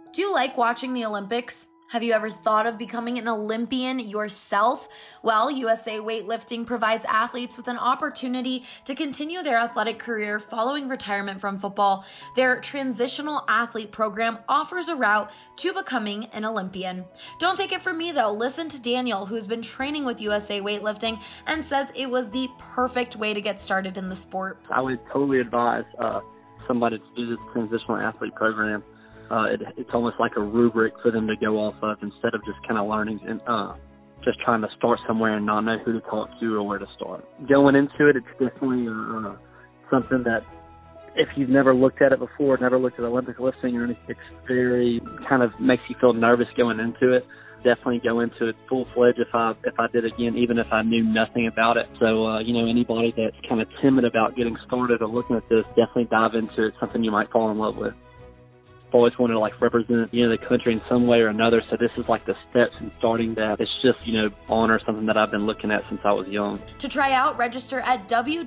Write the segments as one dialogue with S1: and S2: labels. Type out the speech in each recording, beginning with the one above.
S1: Do you like watching the Olympics? Have you ever thought of becoming an Olympian yourself? Well, USA Weightlifting provides athletes with an opportunity to continue their athletic career following retirement from football. Their transitional athlete program offers a route to becoming an Olympian. Don't take it from me though. Listen to Daniel, who's been training with USA Weightlifting and says it was the perfect way to get started in the sport.
S2: I would totally advise somebody to do this transitional athlete program. It's almost like a rubric for them to go off of instead of just kind of learning and just trying to start somewhere and not know who to talk to or where to start. Going into it, it's definitely something that if you've never looked at it before, never looked at Olympic lifting or anything, it's very kind of makes you feel nervous going into it. Definitely go into it full-fledged if I did again, even if I knew nothing about it. So, anybody that's kind of timid about getting started or looking at this, definitely dive into it. It's something you might fall in love with. I've always wanted to represent, the country in some way or another. So this is the steps in starting that. It's just, honor something that I've been looking at since I was young.
S1: To try out, register at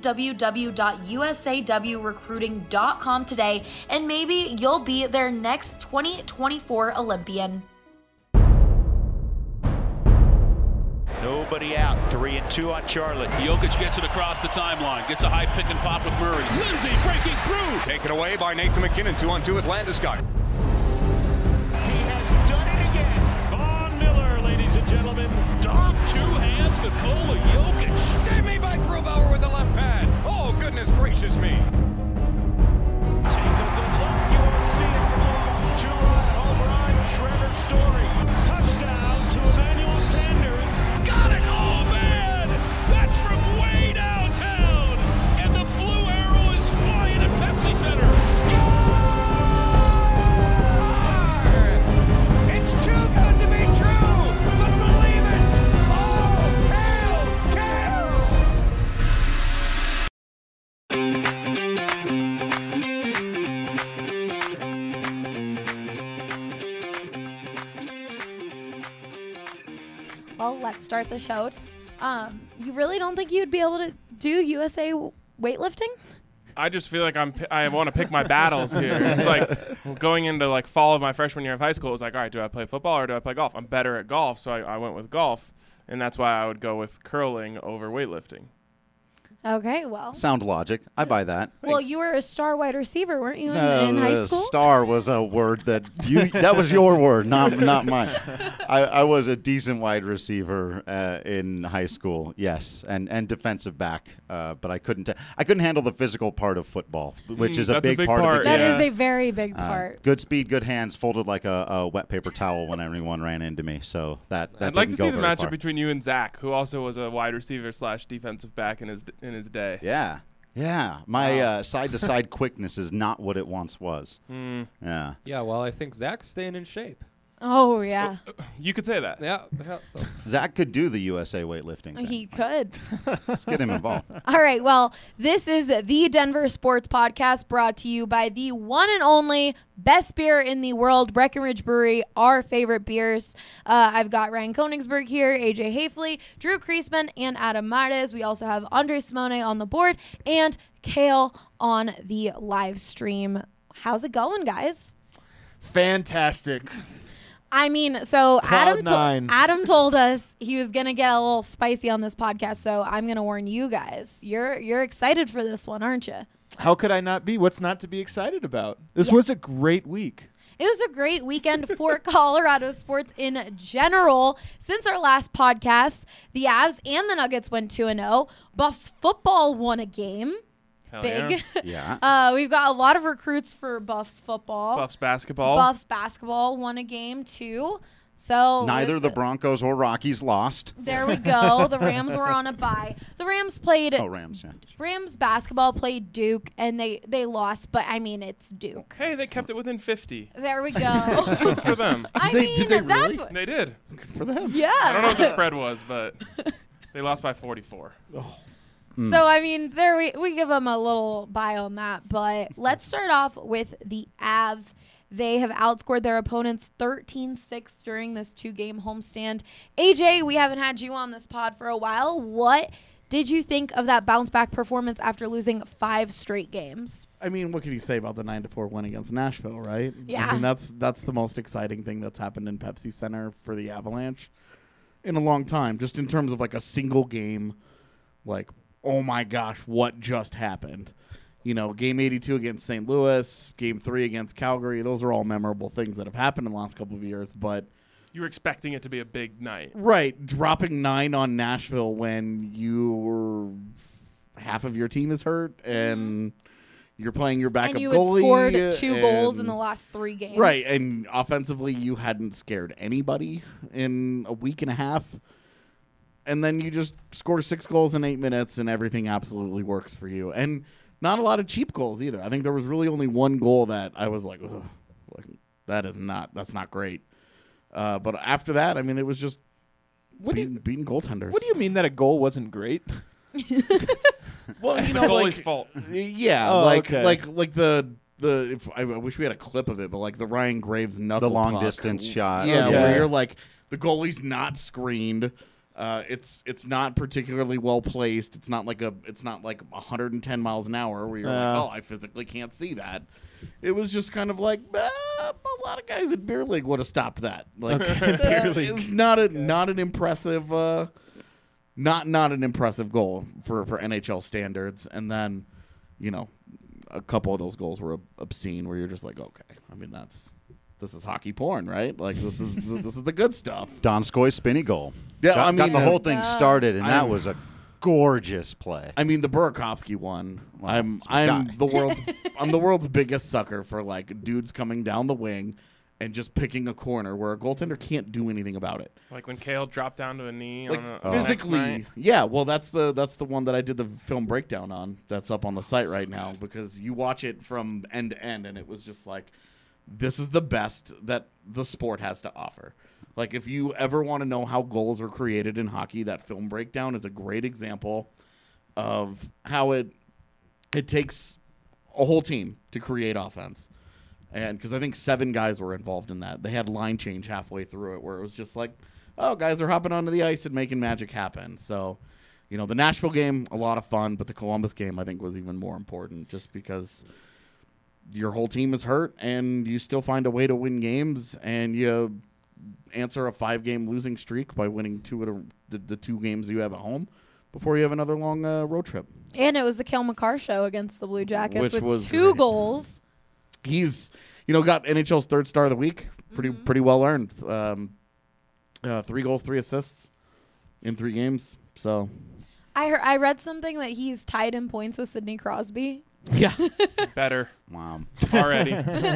S1: www.usawrecruiting.com today, and maybe you'll be their next 2024 Olympian.
S3: Nobody out. 3-2 on Charlotte.
S4: Jokic gets it across the timeline. Gets a high pick and pop with Murray. Lindsay breaking through.
S5: Taken away by Nathan McKinnon. 2-on-2 with Landeskog.
S4: He has done it again. Von Miller, ladies and gentlemen. Dom, two hands, Nikola Jokic.
S5: Save me by Grubauer with the left pad. Oh, goodness gracious me.
S4: Take a good look. You won't see it for long. Two-run home run. Trevor Story. Touchdown to Emmanuel Sanders. Got it! Oh, man! That's from way downtown! And the blue arrow is flying at Pepsi Center.
S5: Score! It's too good to be true, but believe it! Oh, hail,
S6: Well, let's start the show. You really don't think you'd be able to do USA weightlifting?
S7: I just feel like I want to pick my battles here. It's like going into fall of my freshman year of high school. It was like, all right, do I play football or do I play golf? I'm better at golf, so I went with golf, and that's why I would go with curling over weightlifting.
S6: Okay, well.
S8: Sound logic. I buy that.
S6: Well,
S7: Thanks.
S6: you were a star wide receiver, weren't you, in high school?
S8: Star was a word that that was your word, not mine. I was a decent wide receiver in high school, yes, and defensive back, but I couldn't handle the physical part of football, which is a big part of the game.
S6: That is a very big part.
S8: Good speed, good hands, folded like a wet paper towel when anyone ran into me. So that
S7: I'd like to see the matchup
S8: far.
S7: between you and Zach, who also was a wide receiver / defensive back in his day.
S8: Yeah. My side-to-side quickness is not what it once was. Yeah.
S9: Yeah, well, I think Zach's staying in shape.
S6: Oh, yeah.
S7: You could say that.
S9: Yeah. So.
S8: Zach could do the USA weightlifting thing.
S6: He could.
S8: Let's get him involved.
S6: All right, well, this is the Denver Sports Podcast brought to you by the one and only best beer in the world, Breckenridge Brewery, our favorite beers. I've got Ryan Koenigsberg here, AJ Hafley, Drew Kriesman, and Adam Martes. We also have Andre Simone on the board and Kale on the live stream. How's it going, guys?
S10: Fantastic.
S6: I mean, so
S10: Cloud9.
S6: Adam told us he was going to get a little spicy on this podcast, so I'm going to warn you guys. You're excited for this one, aren't you?
S10: How could I not be? What's not to be excited about? This was a great week.
S6: It was a great weekend for Colorado sports in general. Since our last podcast, the Avs and the Nuggets went 2-0. Buffs football won a game. Big.
S8: Yeah.
S6: We've got a lot of recruits for Buffs football.
S7: Buffs basketball.
S6: Buffs basketball won a game too. So
S8: neither the Broncos or Rockies lost.
S6: There we go. The Rams were on a bye. The Rams played.
S8: Oh, Rams, yeah.
S6: Rams basketball played Duke, and they lost. But I mean, it's Duke.
S7: Hey, they kept it within 50.
S6: There we go.
S7: Good for them.
S10: Did they really?
S7: They did.
S8: Good for them.
S6: Yeah.
S7: I don't know what the spread was, but they lost by 44.
S10: Oh.
S6: So, I mean, there we give them a little bye on that. But let's start off with the Avs. They have outscored their opponents 13-6 during this 2-game homestand. AJ, we haven't had you on this pod for a while. What did you think of that bounce back performance after losing 5 straight games?
S11: I mean, what can you say about the 9-4 win against Nashville, right?
S6: Yeah.
S11: I mean, that's the most exciting thing that's happened in Pepsi Center for the Avalanche in a long time, just in terms of like a single game, like, oh my gosh, what just happened? You know, game 82 against St. Louis, game 3 against Calgary, those are all memorable things that have happened in the last couple of years, but
S7: You were expecting it to be a big night.
S11: right, dropping 9 on Nashville when half of your team is hurt and you're playing your backup
S6: And you
S11: goalie.
S6: had scored 2 goals in the last 3 games.
S11: Right, and offensively, you hadn't scared anybody in a week and a half. And then you just score 6 goals in 8 minutes, and everything absolutely works for you. And not a lot of cheap goals either. I think there was really only 1 goal that I was like, ugh, that's not great. But after that, I mean, it was just beating goaltenders.
S10: What do you mean that a goal wasn't great?
S11: Well,
S7: It's
S11: you
S7: the
S11: know,
S7: goalie's
S11: like,
S7: fault.
S11: yeah,
S10: Oh,
S11: like
S10: okay.
S11: like the I wish we had a clip of it, but like the Ryan Graves knuckle
S8: The long
S11: puck.
S8: distance shot.
S11: Yeah,
S10: Okay.
S11: where you're like the goalie's not screened. It's not particularly well placed. It's not like 110 miles an hour where you're like, oh, I physically can't see that. It was just kind of like a lot of guys at beer league would have stopped that. Like it's not an impressive not an impressive goal for NHL standards. And then, you know, a couple of those goals were obscene where you're just like, okay, I mean this is hockey porn, right? Like this is the good stuff.
S8: Donskoy spinny goal.
S11: Yeah,
S8: got,
S11: I mean,
S8: got the whole thing started, and that
S11: I'm-
S8: was a gorgeous play.
S11: I mean, the Burakovsky one.
S8: Wow,
S11: I'm
S8: it's my guy.
S11: the world's biggest sucker for like dudes coming down the wing and just picking a corner where a goaltender can't do anything about it.
S7: Like when Kale dropped down to a knee
S11: Like
S7: on the
S11: physically,
S7: next night.
S11: yeah. Well, that's the one that I did the film breakdown on. That's up on the site right now because you watch it from end to end, and it was just like, this is the best that the sport has to offer. Like, if you ever want to know how goals are created in hockey, that film breakdown is a great example of how it takes a whole team to create offense. And because I think 7 guys were involved in that. They had line change halfway through it where it was just like, oh, guys are hopping onto the ice and making magic happen. So, you know, the Nashville game, a lot of fun, but the Columbus game, I think, was even more important just because your whole team is hurt and you still find a way to win games and you answer a 5-game losing streak by winning 2 of the 2 games you have at home before you have another long road trip.
S6: And it was the Cale Makar show against the Blue Jackets
S11: Which
S6: with
S11: was
S6: 2
S11: great.
S6: goals.
S11: He's, you know, got NHL's 3rd star of the week. Pretty well earned. 3 goals, 3 assists in 3 games. So
S6: I read something that he's tied in points with Sidney Crosby.
S11: yeah,
S7: Better
S8: Wow.
S7: already.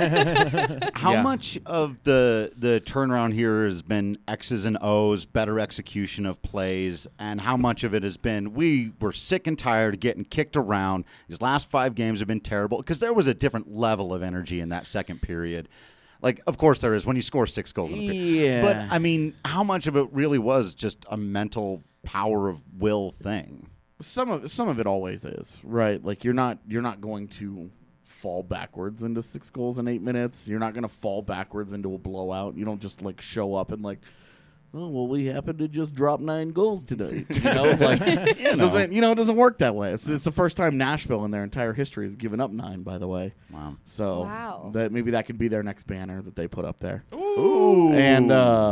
S8: How
S11: Yeah.
S8: much of the turnaround here has been X's and O's, better execution of plays, and how much of it has been we were sick and tired of getting kicked around. These last 5 games have been terrible because there was a different level of energy in that second period. Like, of course there is when you score 6 goals in a period.
S11: Yeah.
S8: But, I mean, how much of it really was just a mental power of will thing?
S11: some of it always is, right? Like you're not going to fall backwards into 6 goals in 8 minutes. You're not going to fall backwards into a blowout. You don't just like show up and like, oh well, we happen to just drop 9 goals today. You know, like it doesn't work that way. It's the first time Nashville in their entire history has given up 9. By the way,
S8: Wow.
S11: so
S6: Wow.
S11: that maybe that could be their next banner that they put up there.
S8: Ooh.
S11: And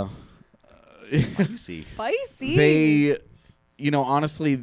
S8: Spicy.
S6: Spicy.
S11: they, you know, honestly,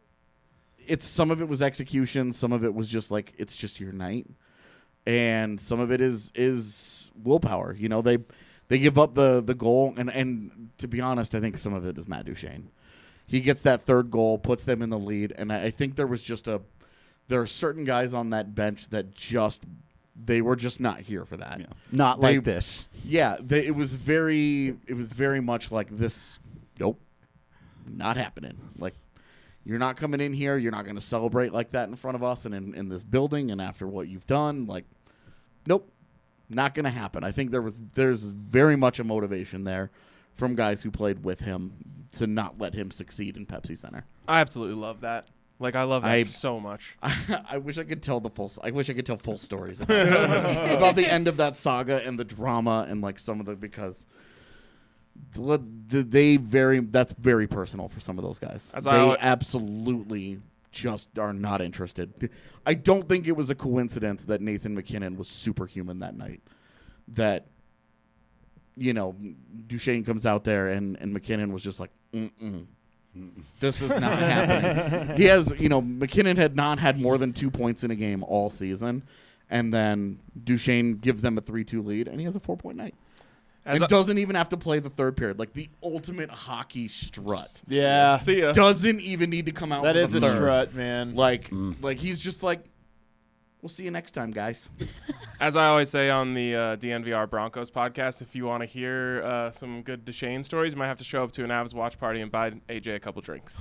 S11: some of it was execution, some of it was just like it's just your night, and some of it is willpower. You know, they give up the goal, and to be honest, I think some of it is Matt Duchene. He gets that 3rd goal, puts them in the lead, and I think there are certain guys on that bench that they were just not here for that.
S8: Yeah. Not like this.
S11: Yeah, it was very much like this. Nope, not happening. Like, you're not coming in here. You're not going to celebrate like that in front of us and in this building. And after what you've done, like, nope, not going to happen. I think there's very much a motivation there from guys who played with him to not let him succeed in Pepsi Center.
S7: I absolutely love that. Like, I love that so much.
S11: I wish I could tell full stories about the end of that saga and the drama and like some of the, because That's very personal for some of those guys. They absolutely just are not interested. I don't think it was a coincidence that Nathan McKinnon was superhuman that night. That, Duchesne comes out there and McKinnon was just like, this is not happening. He has, McKinnon had not had more than 2 points in a game all season, and then Duchesne gives them a 3-2 lead, and he has a 4-point night. And doesn't even have to play the third period. Like the ultimate hockey strut.
S10: Yeah.
S7: See ya.
S11: Doesn't even need to come out.
S10: That
S11: for
S10: is
S11: the
S10: a
S11: third.
S10: strut, man.
S11: Like he's just like, we'll see you next time, guys.
S7: As I always say on the DNVR Broncos podcast, if you want to hear some good Duchesne stories, you might have to show up to an Avs watch party and buy AJ a couple drinks.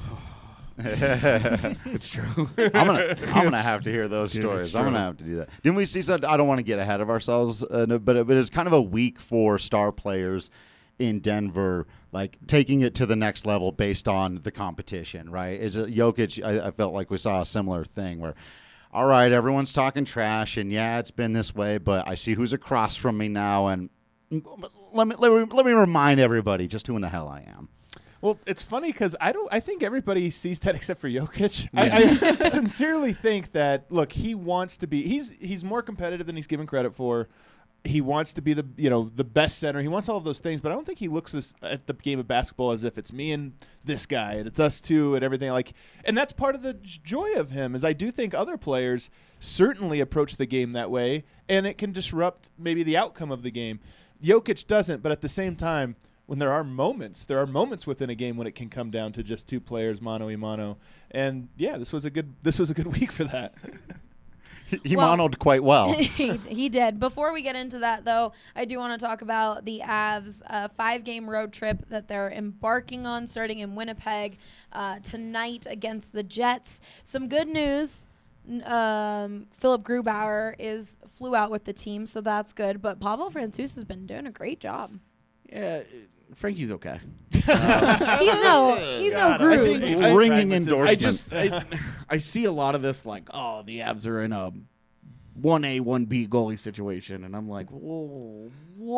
S11: It's true.
S8: I'm gonna have to hear those stories. I'm gonna have to do that. Didn't we see something? I don't want to get ahead of ourselves, but it's kind of a week for star players in Denver, like taking it to the next level based on the competition. Right? Is it Jokic? I felt like we saw a similar thing where, all right, everyone's talking trash, and yeah, it's been this way, but I see who's across from me now, and let me remind everybody just who in the hell I am.
S10: Well, it's funny because I think everybody sees that except for Jokic. I sincerely think that, look, he wants to be. He's more competitive than he's given credit for. He wants to be the best center. He wants all of those things, but I don't think he looks at the game of basketball as if it's me and this guy and it's us two and everything and that's part of the joy of him. Is I do think other players certainly approach the game that way, and it can disrupt maybe the outcome of the game. Jokic doesn't, but at the same time, when there are moments within a game when it can come down to just two players mano a mano, and yeah, this was a good week for that.
S8: He monoed quite well.
S6: He did. Before we get into that, though, I do want to talk about the Avs 5-game road trip that they're embarking on, starting in Winnipeg tonight against the Jets. Some good news. Philip Grubauer flew out with the team, so that's good. But Pavel Francouz has been doing a great job.
S11: Yeah, Frankie's okay.
S6: He's no Groove.
S8: Ringing endorsement.
S11: I see a lot of this like, oh, the Avs are in a 1A, 1B goalie situation, and I'm like, whoa,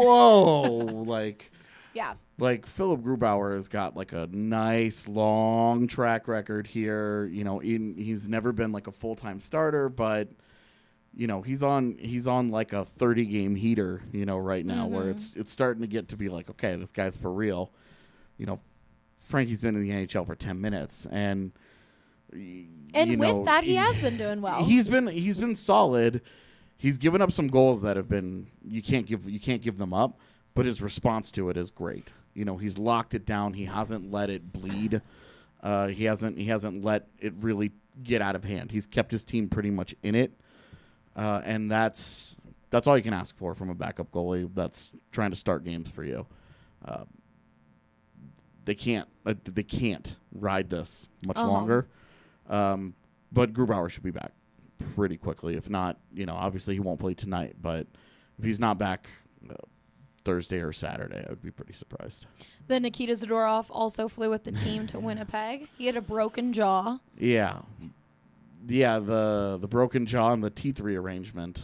S6: Yeah.
S11: Like Philip Grubauer has got like a nice long track record here. He's never been like a full-time starter, but he's on like a 30-game heater, right now, where it's starting to get to be like, okay, this guy's for real. Frankie's been in the NHL for 10 minutes, and
S6: with that, he has been doing well.
S11: He's been solid. He's given up some goals that have been you can't give them up, but his response to it is great. He's locked it down. He hasn't let it bleed. He hasn't let it really get out of hand. He's kept his team pretty much in it. And that's all you can ask for from a backup goalie that's trying to start games for you. They can't ride this much longer. But Grubauer should be back pretty quickly. If not, obviously he won't play tonight. But if he's not back Thursday or Saturday, I would be pretty surprised.
S6: Then Nikita Zadorov also flew with the team to Winnipeg. He had a broken jaw.
S11: Yeah, the broken jaw and the teeth rearrangement.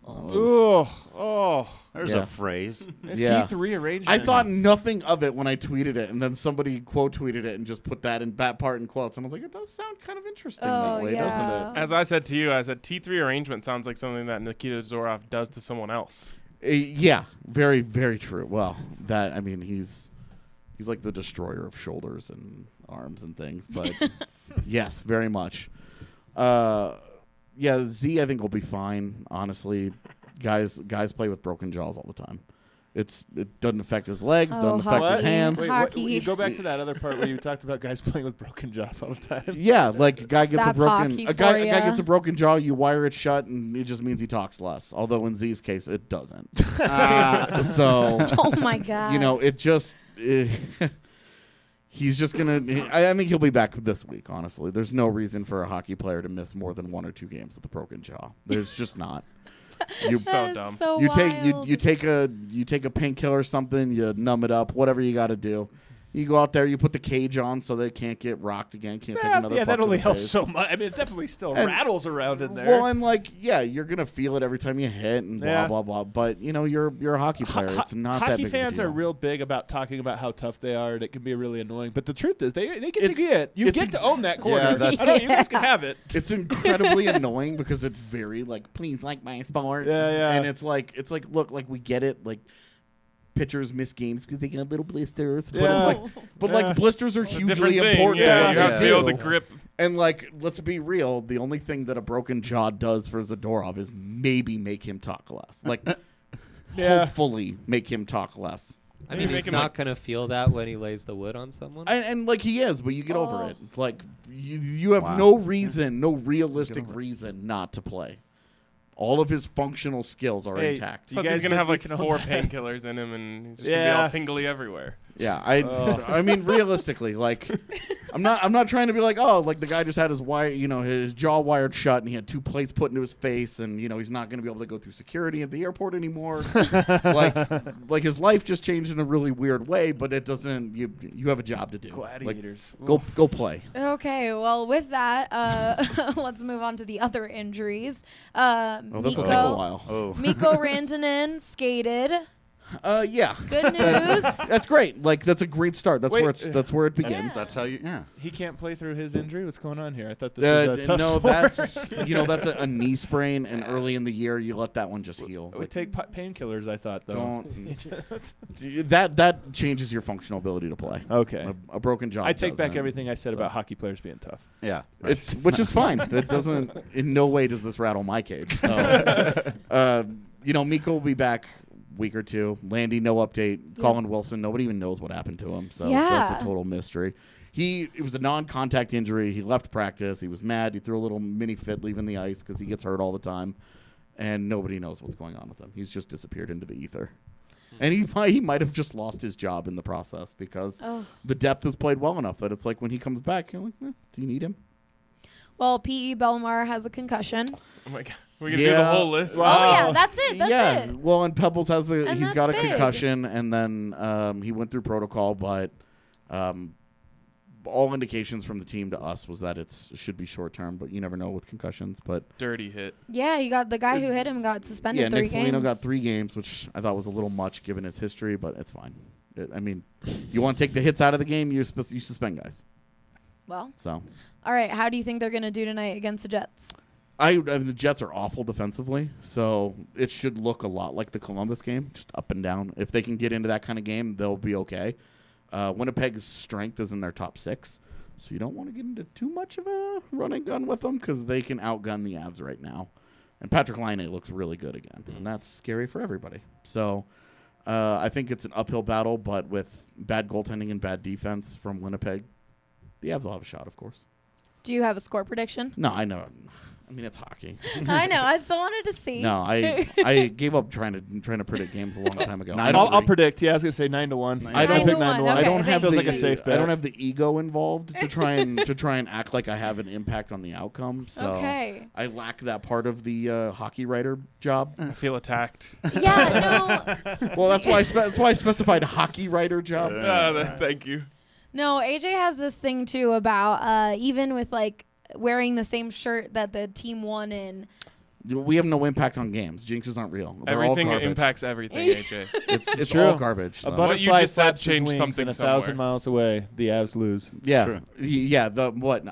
S8: There's a phrase.
S10: Teeth rearrangement.
S11: I thought nothing of it when I tweeted it, and then somebody quote tweeted it and just put that part in quotes. And I was like, it does sound kind of interesting that way, doesn't it?
S7: As I said to you, teeth rearrangement sounds like something that Nikita Zadorov does to someone else.
S11: Yeah, very, very true. Well, he's like the destroyer of shoulders and arms and things, but yes, very much. Z I think will be fine. Honestly, guys play with broken jaws all the time. It doesn't affect his legs, doesn't affect his hands.
S10: Wait, you go back to that other part where you talked about guys playing with broken jaws all the time.
S11: Yeah, like a guy gets
S6: That's
S11: a guy gets a broken jaw, you wire it shut, and it just means he talks less. Although in Z's case, it doesn't. So,
S6: oh my god,
S11: it just. He's just going to – I think he'll be back this week, honestly. There's no reason for a hockey player to miss more than 1 or 2 games with a broken jaw. There's just not.
S7: You're so dumb.
S6: So
S11: you take a painkiller or something, you numb it up, whatever you got to do. You go out there, you put the cage on so they can't get rocked again, can't take another puck
S10: that
S11: to
S10: only
S11: the
S10: helps
S11: face.
S10: so much. I mean, it definitely still
S11: And-
S10: rattles around in there.
S11: Well, and like, yeah, you're gonna feel it every time you hit and blah
S10: Yeah.
S11: blah blah. But you know, you're a hockey player. It's not that
S10: hockey
S11: big of a
S10: fans
S11: deal.
S10: are real big about talking about how tough they are, and it can be really annoying. But the truth is, they get to
S11: It's-
S10: get. You
S11: it's
S10: get to own that corner.
S8: Yeah, that's-
S10: I know, you guys can have it.
S11: It's incredibly annoying because it's very like, please like my sport.
S10: Yeah, yeah.
S11: And it's like, look, like we get it, like. Pitchers miss games because they get little blisters. But,
S10: Yeah.
S11: it's like, but like blisters are hugely
S7: Different thing.
S11: important.
S7: Yeah,
S11: to what
S7: you have to be
S11: do.
S7: able to grip.
S11: And like, let's be real. The only thing that a broken jaw does for Zadorov is maybe make him talk less. Like, hopefully make him talk less.
S9: I mean,
S7: Make
S9: he's
S7: him
S9: not
S7: like-
S9: going to feel that when he lays the wood on someone.
S11: And like he is, but you get over
S6: Oh.
S11: it. Like you have
S8: Wow.
S11: no reason, no realistic reason not to play. All of his functional skills are
S10: Hey,
S11: intact.
S10: you
S7: Plus,
S10: guys
S7: he's gonna
S10: get-
S7: have
S10: you
S7: like
S10: can own
S7: 4
S10: that.
S7: painkillers in him, and he's just gonna be
S10: Yeah.
S7: all tingly everywhere.
S11: Yeah, I mean realistically, like I'm not trying to be like, oh, like the guy just had his his jaw wired shut and he had 2 plates put into his face and he's not going to be able to go through security at the airport anymore. like his life just changed in a really weird way, but it doesn't you have a job to do.
S10: Gladiators.
S11: Like, go play.
S6: Okay, well, with that, let's move on to the other injuries.
S11: Oh, this will take a while.
S8: Oh.
S6: Mikko Rantanen skated.
S11: Yeah.
S6: Good news.
S11: That's great. Like that's a great start. That's
S10: Wait,
S11: where it begins.
S8: That's how you. Yeah.
S10: He can't play through his injury. What's going on here? I thought this was a tough
S11: no,
S10: sport.
S11: that's a knee sprain, and early in the year you let that one just heal.
S10: It would take painkillers. I thought though.
S11: That changes your functional ability to play.
S10: Okay.
S11: A broken jaw.
S10: I take back
S11: doesn't.
S10: everything I said
S11: So-
S10: about hockey players being tough.
S8: Yeah.
S11: Which is fine. It doesn't. In no way does this rattle my cage. So, Mikko will be back week or two. Landy, no update. Colin Wilson, nobody even knows what happened to him. So
S6: Yeah.
S11: that's a total mystery. It was a non-contact injury. He left practice. He was mad. He threw a little mini fit leaving the ice because he gets hurt all the time, and nobody knows what's going on with him. He's just disappeared into the ether. And he might have just lost his job in the process because the depth has played well enough that it's like when he comes back, you're like, do you need him?
S6: Well, P.E. Belmar has a concussion.
S7: Oh my god, we're gonna do the whole list.
S6: Oh, yeah, that's it. That's it.
S11: Well, and Pebbles has
S6: And
S11: he's
S6: that's
S11: got a
S6: big.
S11: concussion, and then he went through protocol, but all indications from the team to us was that it should be short term, but you never know with concussions. But
S7: Dirty hit.
S6: Yeah, he got the guy who hit him got suspended
S11: yeah,
S6: 3
S11: Nick
S6: games.
S11: Foligno got 3 games, which I thought was a little much given his history, but it's fine. I mean, you want to take the hits out of the game, you suspend guys.
S6: Well,
S11: So
S6: all right. How do you think they're going to do tonight against the Jets?
S11: I mean, the Jets are awful defensively, so it should look a lot like the Columbus game, just up and down. If they can get into that kind of game, they'll be okay. Winnipeg's strength is in their top 6, so you don't want to get into too much of a running gun with them because they can outgun the Avs right now. And Patrick Laine looks really good again, and that's scary for everybody. So I think it's an uphill battle, but with bad goaltending and bad defense from Winnipeg, the Avs will have a shot, of course.
S6: Do you have a score prediction?
S11: No, I know. I mean, it's hockey.
S6: I know. I still wanted to see.
S11: No, I gave up trying to predict games a long time ago.
S10: I'll predict. Yeah, I was gonna say 9-1.
S11: I don't
S6: 9-1, okay.
S11: I don't have
S10: Feels
S11: the,
S10: like a safe bet.
S11: I don't have the ego involved to try and act like I have an impact on the outcome. So
S6: Okay.
S11: I lack that part of the hockey writer job.
S7: I feel attacked.
S6: Yeah, no.
S11: Well, that's why I specified hockey writer job.
S7: Thank you.
S6: No, AJ has this thing too about even with like wearing the same shirt that the team won in.
S11: We have no impact on games. Jinxes aren't real. They're
S7: Everything
S11: all garbage.
S7: impacts everything, AJ.
S11: It's
S10: True.
S11: all garbage.
S10: A
S11: So.
S7: What you
S10: butterfly
S7: just said
S10: flaps his
S7: changed
S10: wings
S7: something
S10: and
S7: somewhere.
S10: 1,000 miles away, the Avs lose.
S11: Yeah, yeah. When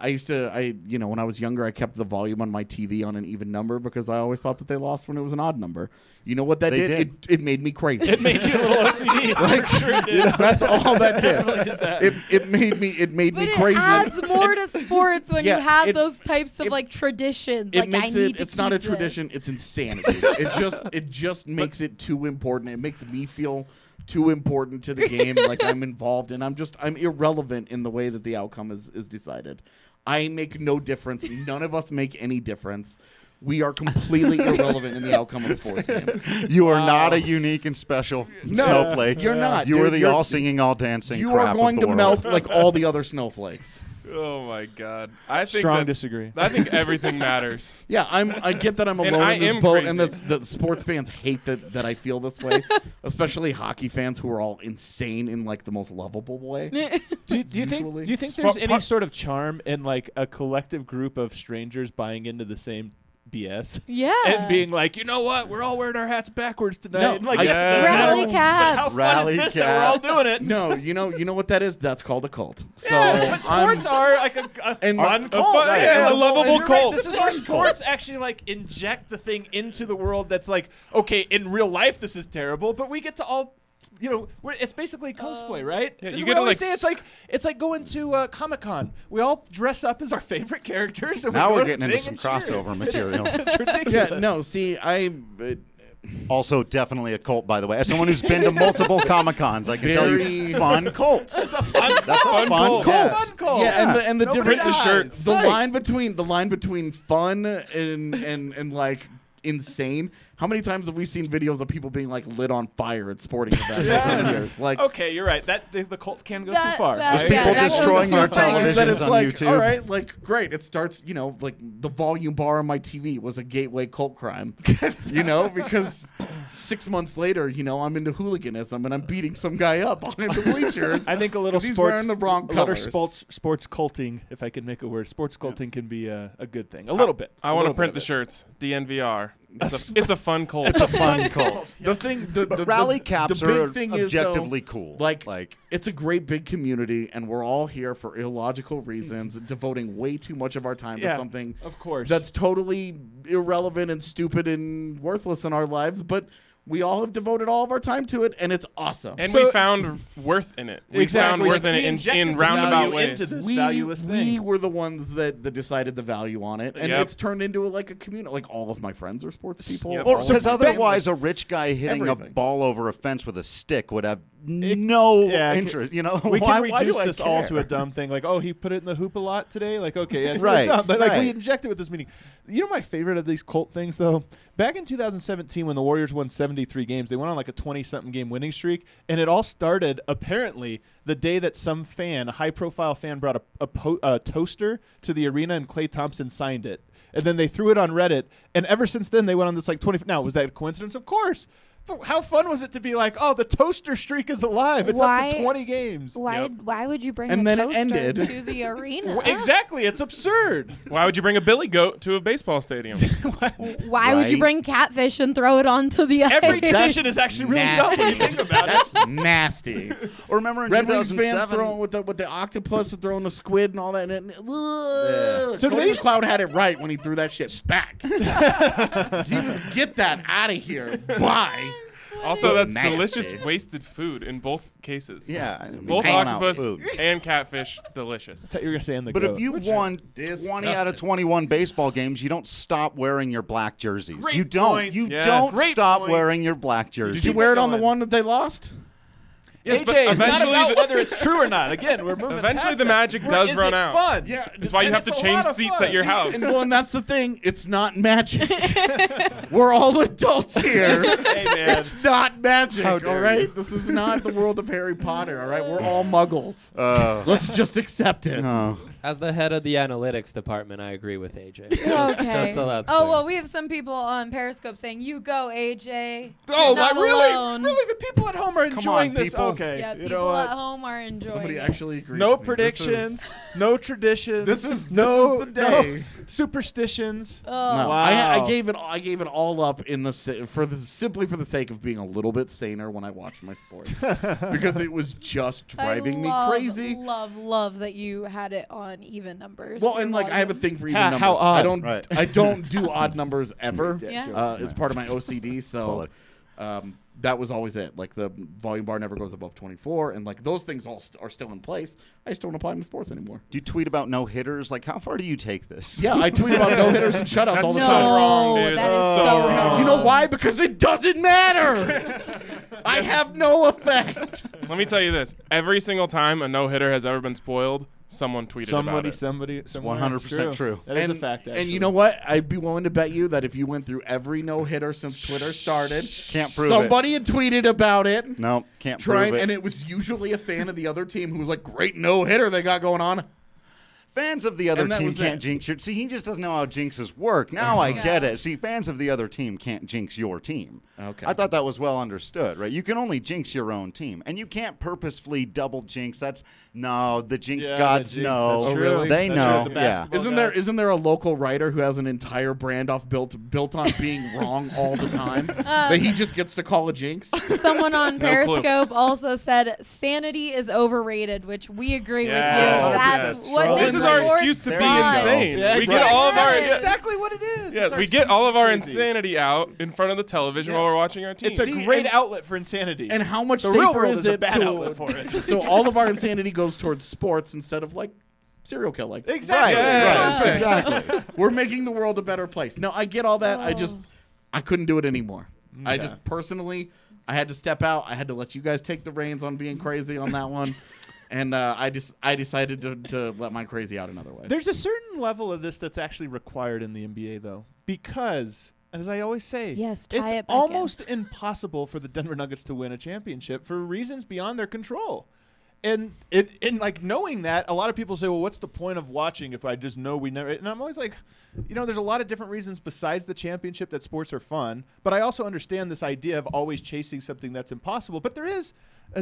S11: I was younger, I kept the volume on my TV on an even number because I always thought that they lost when it was an odd number. You know what that
S8: They
S11: did?
S8: did.
S11: It made me crazy.
S10: It made you a little OCD.
S11: Like,
S10: sure it did.
S11: That's all that did.
S10: Definitely did that.
S11: It made me
S6: But it
S11: crazy.
S6: adds more to sports when
S11: Yeah,
S6: you have
S11: it-
S6: those types of
S11: it-
S6: like traditions.
S11: It
S6: Like
S11: makes
S6: I need
S11: it.
S6: to
S11: It's not a
S6: keep
S11: tradition.
S6: this.
S11: It's insanity. it just makes it too important. It makes me feel too important to the game, like I'm involved, and I'm irrelevant in the way that the outcome is decided. I make no difference. None of us make any difference. We are completely irrelevant in the outcome of sports games.
S8: You are not a unique and special snowflake.
S11: You're not.
S8: You are
S11: You're-
S8: the all singing, all dancing.
S11: You
S8: crap
S11: are going
S8: of
S11: to
S8: the
S11: melt
S8: world.
S11: like all the other snowflakes.
S7: Oh my God! I think
S10: Strong
S7: that-
S10: disagree.
S7: I think everything matters.
S11: Yeah, I get that I'm
S7: And
S11: alone
S7: I
S11: in this
S7: am
S11: boat, and
S7: crazy.
S11: that sports fans hate that I feel this way, especially hockey fans who are all insane in like the most lovable way.
S10: Do you think
S11: Usually.
S10: there's any sort of charm in like a collective group of strangers buying into the same BS?
S6: Yeah.
S10: And being like, you know what? We're all wearing our hats backwards tonight.
S11: No,
S10: and like,
S11: I-
S10: yes,
S6: Rally
S10: but
S6: cats.
S10: how fun
S8: Rally
S10: is this that we're all doing it?
S11: No, you know what that is? That's called a cult. So
S10: Yeah, but sports
S11: I'm-
S10: are like a
S11: And-
S10: fun
S11: a
S10: cult.
S11: fun- yeah,
S10: And
S11: a lovable
S10: you're right,
S11: cult.
S10: This is where sports actually like inject the thing into the world that's like, okay, in real life this is terrible, but we get to all, it's basically cosplay, right?
S7: Yeah,
S10: This
S7: you
S10: is
S7: get
S10: what
S7: to,
S10: I always
S7: like,
S10: say. It's like going to Comic-Con. We all dress up as our favorite characters. And
S8: Now
S10: we
S8: we're
S10: go to
S8: getting into
S10: the
S8: some
S10: thing and cheer.
S8: crossover material.
S10: It's ridiculous.
S11: Yeah, no. See,
S8: Also, definitely a cult, by the way. As someone who's been to multiple Comic-Cons, I can tell you, fun cult.
S10: It's a fun
S8: That's a fun cult.
S10: Fun cult.
S11: Yeah, and the
S10: Nobody
S11: different
S10: dies.
S11: the line between fun and like insane. How many times have we seen videos of people being like lit on fire at sporting events over the years? Like,
S10: okay, you're right. That the cult can go
S6: That-
S10: too far.
S6: that-
S8: There's people
S6: that
S8: destroying
S6: goes
S8: their
S6: so far.
S11: is that
S8: televisions
S11: it's
S8: on
S11: like,
S8: YouTube.
S11: all right, like great. It starts, like the volume bar on my TV was a gateway cult crime, because 6 months later, I'm into hooliganism and I'm beating some guy up behind the bleachers.
S10: I think a little
S11: 'cause he's
S10: sports,
S11: wearing the wrong
S10: a little
S11: colors.
S10: sports culting, if I can make a word. Sports culting can be a good thing. A little bit.
S7: I want to print the shirts. DNVR. It's a fun cult.
S8: It's a fun cult.
S11: The thing, the
S8: Rally caps
S11: the big
S8: are
S11: thing is,
S8: objectively
S11: though,
S8: cool.
S11: Like,
S8: Like-
S11: it's a great big community, and we're all here for illogical reasons, devoting way too much of our time to
S10: Yeah,
S11: something,
S10: of course.
S11: that's totally irrelevant and stupid and worthless in our lives. But we all have devoted all of our time to it, and it's awesome.
S7: And
S10: So-
S7: we found worth in it. We
S10: Exactly.
S7: found worth
S10: Like,
S7: in
S10: we
S7: it
S10: injected
S7: in
S10: the
S7: roundabout
S10: value
S7: ways.
S10: into this valueless thing.
S11: We were the ones that decided the value on it, and
S7: Yep.
S11: it's turned into like a community. Like all of my friends are sports people.
S7: Yep.
S11: all of
S8: Because
S11: my
S8: otherwise,
S11: family-
S8: a rich guy hitting
S11: Everything.
S8: a ball over a fence with a stick would have no
S10: yeah,
S8: interest.
S10: We
S8: why,
S10: can
S8: why
S10: reduce
S8: do I
S10: this all
S8: care?
S10: to a dumb thing, like, oh, he put it in the hoop a lot today. Like, okay, yeah, it's
S8: Right,
S10: really dumb, but like we
S8: right.
S10: inject it with this meaning. My favorite of these cult things though, back in 2017 when the Warriors won 73 games, they went on like a 20-something game winning streak, and it all started apparently the day that some fan, a high-profile fan, brought a toaster to the arena and Klay Thompson signed it, and then they threw it on Reddit, and ever since then they went on this like 20. Now, was that a coincidence? Of course. But how fun was it to be like, oh, the toaster streak is alive? It's up to 20 games.
S6: Why would you bring
S11: And
S6: a
S11: then it
S6: toaster
S11: ended.
S6: to the arena?
S10: Exactly, it's absurd.
S7: Why would you bring a billy goat to a baseball stadium?
S6: Why would you
S8: Right.
S6: bring catfish and throw it onto the
S10: Every
S6: ice?
S10: tradition is actually really dumb when you think about it.
S11: That's nasty.
S8: Or remember in
S11: Red Wings
S8: 2007?
S11: fans throwing with the octopus and throwing the squid and all that. And
S10: So
S11: so
S10: they-
S11: Cloud had it right when he threw that shit back. He was, get that out of here. Bye.
S7: Also, that's
S11: Nasty.
S7: delicious wasted food in both cases.
S8: Yeah, I mean,
S7: Both
S8: throwing out
S7: octopus
S8: food.
S7: and catfish, delicious.
S10: You were gonna say in the
S8: But
S10: goat.
S8: if you've
S11: Which
S8: won
S11: is
S8: 20 out of
S11: disgusting.
S8: 21 baseball games, you don't stop wearing your black jerseys.
S10: Great
S8: you don't.
S10: point.
S8: You
S7: Yes.
S8: don't
S10: Great
S8: stop
S10: point.
S8: wearing your black jerseys.
S11: Did you wear it on the
S10: going.
S11: one that they lost?
S7: Yes,
S10: AJ,
S7: but
S10: it's not
S7: eventually
S10: about
S7: the-
S10: whether it's true or not. Again, we're moving.
S7: Eventually
S10: past
S7: the
S10: that.
S7: magic
S10: Or
S7: does
S10: is
S7: run
S10: it
S7: out.
S10: Fun?
S11: Yeah.
S7: That's why you
S10: And
S7: have to
S10: it's a
S7: change
S10: lot of
S7: seats
S10: fun.
S7: at your house.
S11: And that's the thing. It's not magic. We're all adults here.
S10: Hey man,
S11: It's not magic,
S8: How
S11: all
S8: dare
S11: right?
S8: you.
S11: This is not the world of Harry Potter, all right? We're all muggles.
S8: Uh,
S11: Let's just accept it.
S8: oh.
S9: As the head of the analytics department, I agree with AJ.
S6: Okay.
S9: Just so that's
S6: oh
S9: clear.
S6: well, we have some people on Periscope saying, "You go, AJ."
S10: oh,
S6: You're not
S10: really?
S6: alone."
S10: Really, the people at home are
S8: Come
S10: enjoying
S8: on,
S10: this.
S8: people.
S10: Okay,
S6: Yeah,
S10: you
S6: people
S10: know
S6: at
S10: what?
S6: home are enjoying.
S11: Somebody
S6: it.
S11: actually agrees.
S10: No
S11: with me.
S10: predictions, no traditions.
S11: This is
S10: no
S11: the day.
S10: no superstitions.
S11: No,
S10: Wow.
S11: I gave it all up in the simply for the sake of being a little bit saner when I watched my sports because it was just driving me crazy.
S6: Love that you had it on even numbers.
S11: Well, and like I have a thing for even
S10: How
S11: numbers.
S10: odd.
S11: I don't
S8: Right.
S11: I don't do odd numbers ever.
S6: Yeah.
S11: It's part of my OCD. So
S8: Fully.
S11: that was always it. Like the volume bar never goes above 24, and like those things all are still in place. I just don't apply them to sports anymore.
S8: Do you tweet about no hitters? Like, how far do you take this?
S11: Yeah, I tweet about no hitters and shutouts
S7: That's
S11: all the
S7: so
S11: time.
S7: wrong, dude.
S6: that is
S7: That's
S6: so
S7: so
S6: wrong.
S7: wrong.
S11: You know why? Because it doesn't matter. I have no effect.
S7: Let me tell you this: every single time a no hitter has ever been spoiled, someone tweeted about it.
S10: Somebody.
S8: 100% true.
S10: That is a fact. Actually.
S11: And you know what? I'd be willing to bet you that if you went through every no hitter since Twitter started,
S8: Can't prove
S11: somebody had tweeted about it.
S8: No, can't
S11: Trying,
S8: prove it.
S11: and it was usually a fan of the other team who was like, "Great no hitter they got going on."
S8: Fans of the other
S11: And that
S8: team
S11: was
S8: can't
S11: it.
S8: jinx your. See, he just doesn't know how jinxes work. Now I get it. See, fans of the other team can't jinx your team.
S11: Okay.
S8: I thought that was well understood, right? You can only jinx your own team, and you can't purposefully double jinx. The jinx gods know.
S10: That's true.
S8: They
S10: That's
S8: know.
S10: true. The
S8: Yeah.
S10: basketball
S11: Isn't there a local writer who has an entire brand off built on being wrong all the time that he just gets to call a jinx?
S6: Someone on
S7: No clue.
S6: Periscope also said sanity is overrated, which we agree
S7: Yes,
S6: with you. That's
S7: yes.
S6: what
S7: This
S6: makes
S7: is our
S6: sports
S7: excuse to be
S6: fun.
S7: insane.
S10: Yeah,
S7: we get
S10: exactly.
S7: all of our
S10: That's exactly what it is.
S7: yes,
S10: It's our
S7: we get all of our
S10: crazy.
S7: insanity out in front of the television while we're watching our team.
S10: It's a
S11: See,
S10: great
S11: and-
S10: outlet for insanity.
S11: And how much
S10: the
S11: safer
S10: real world
S11: is
S10: is a
S11: it
S10: bad
S11: to
S10: outlet for it.
S11: So all of our insanity goes towards sports instead of like serial killing.
S10: Exactly.
S8: Right. Exactly.
S11: We're making the world a better place. No, I get all that. I couldn't do it anymore. I just personally, I had to step out. I had to let you guys take the reins on being crazy on that one. And I decided to let my crazy out another way.
S10: There's a certain level of this that's actually required in the NBA, though, because, as I always say,
S6: Yes, tie
S10: it's
S6: it back
S10: almost impossible for the Denver Nuggets to win a championship for reasons beyond their control. And like knowing that, a lot of people say, well, what's the point of watching if I just know we never? And I'm always like, there's a lot of different reasons besides the championship that sports are fun. But I also understand this idea of always chasing something that's impossible. But there is a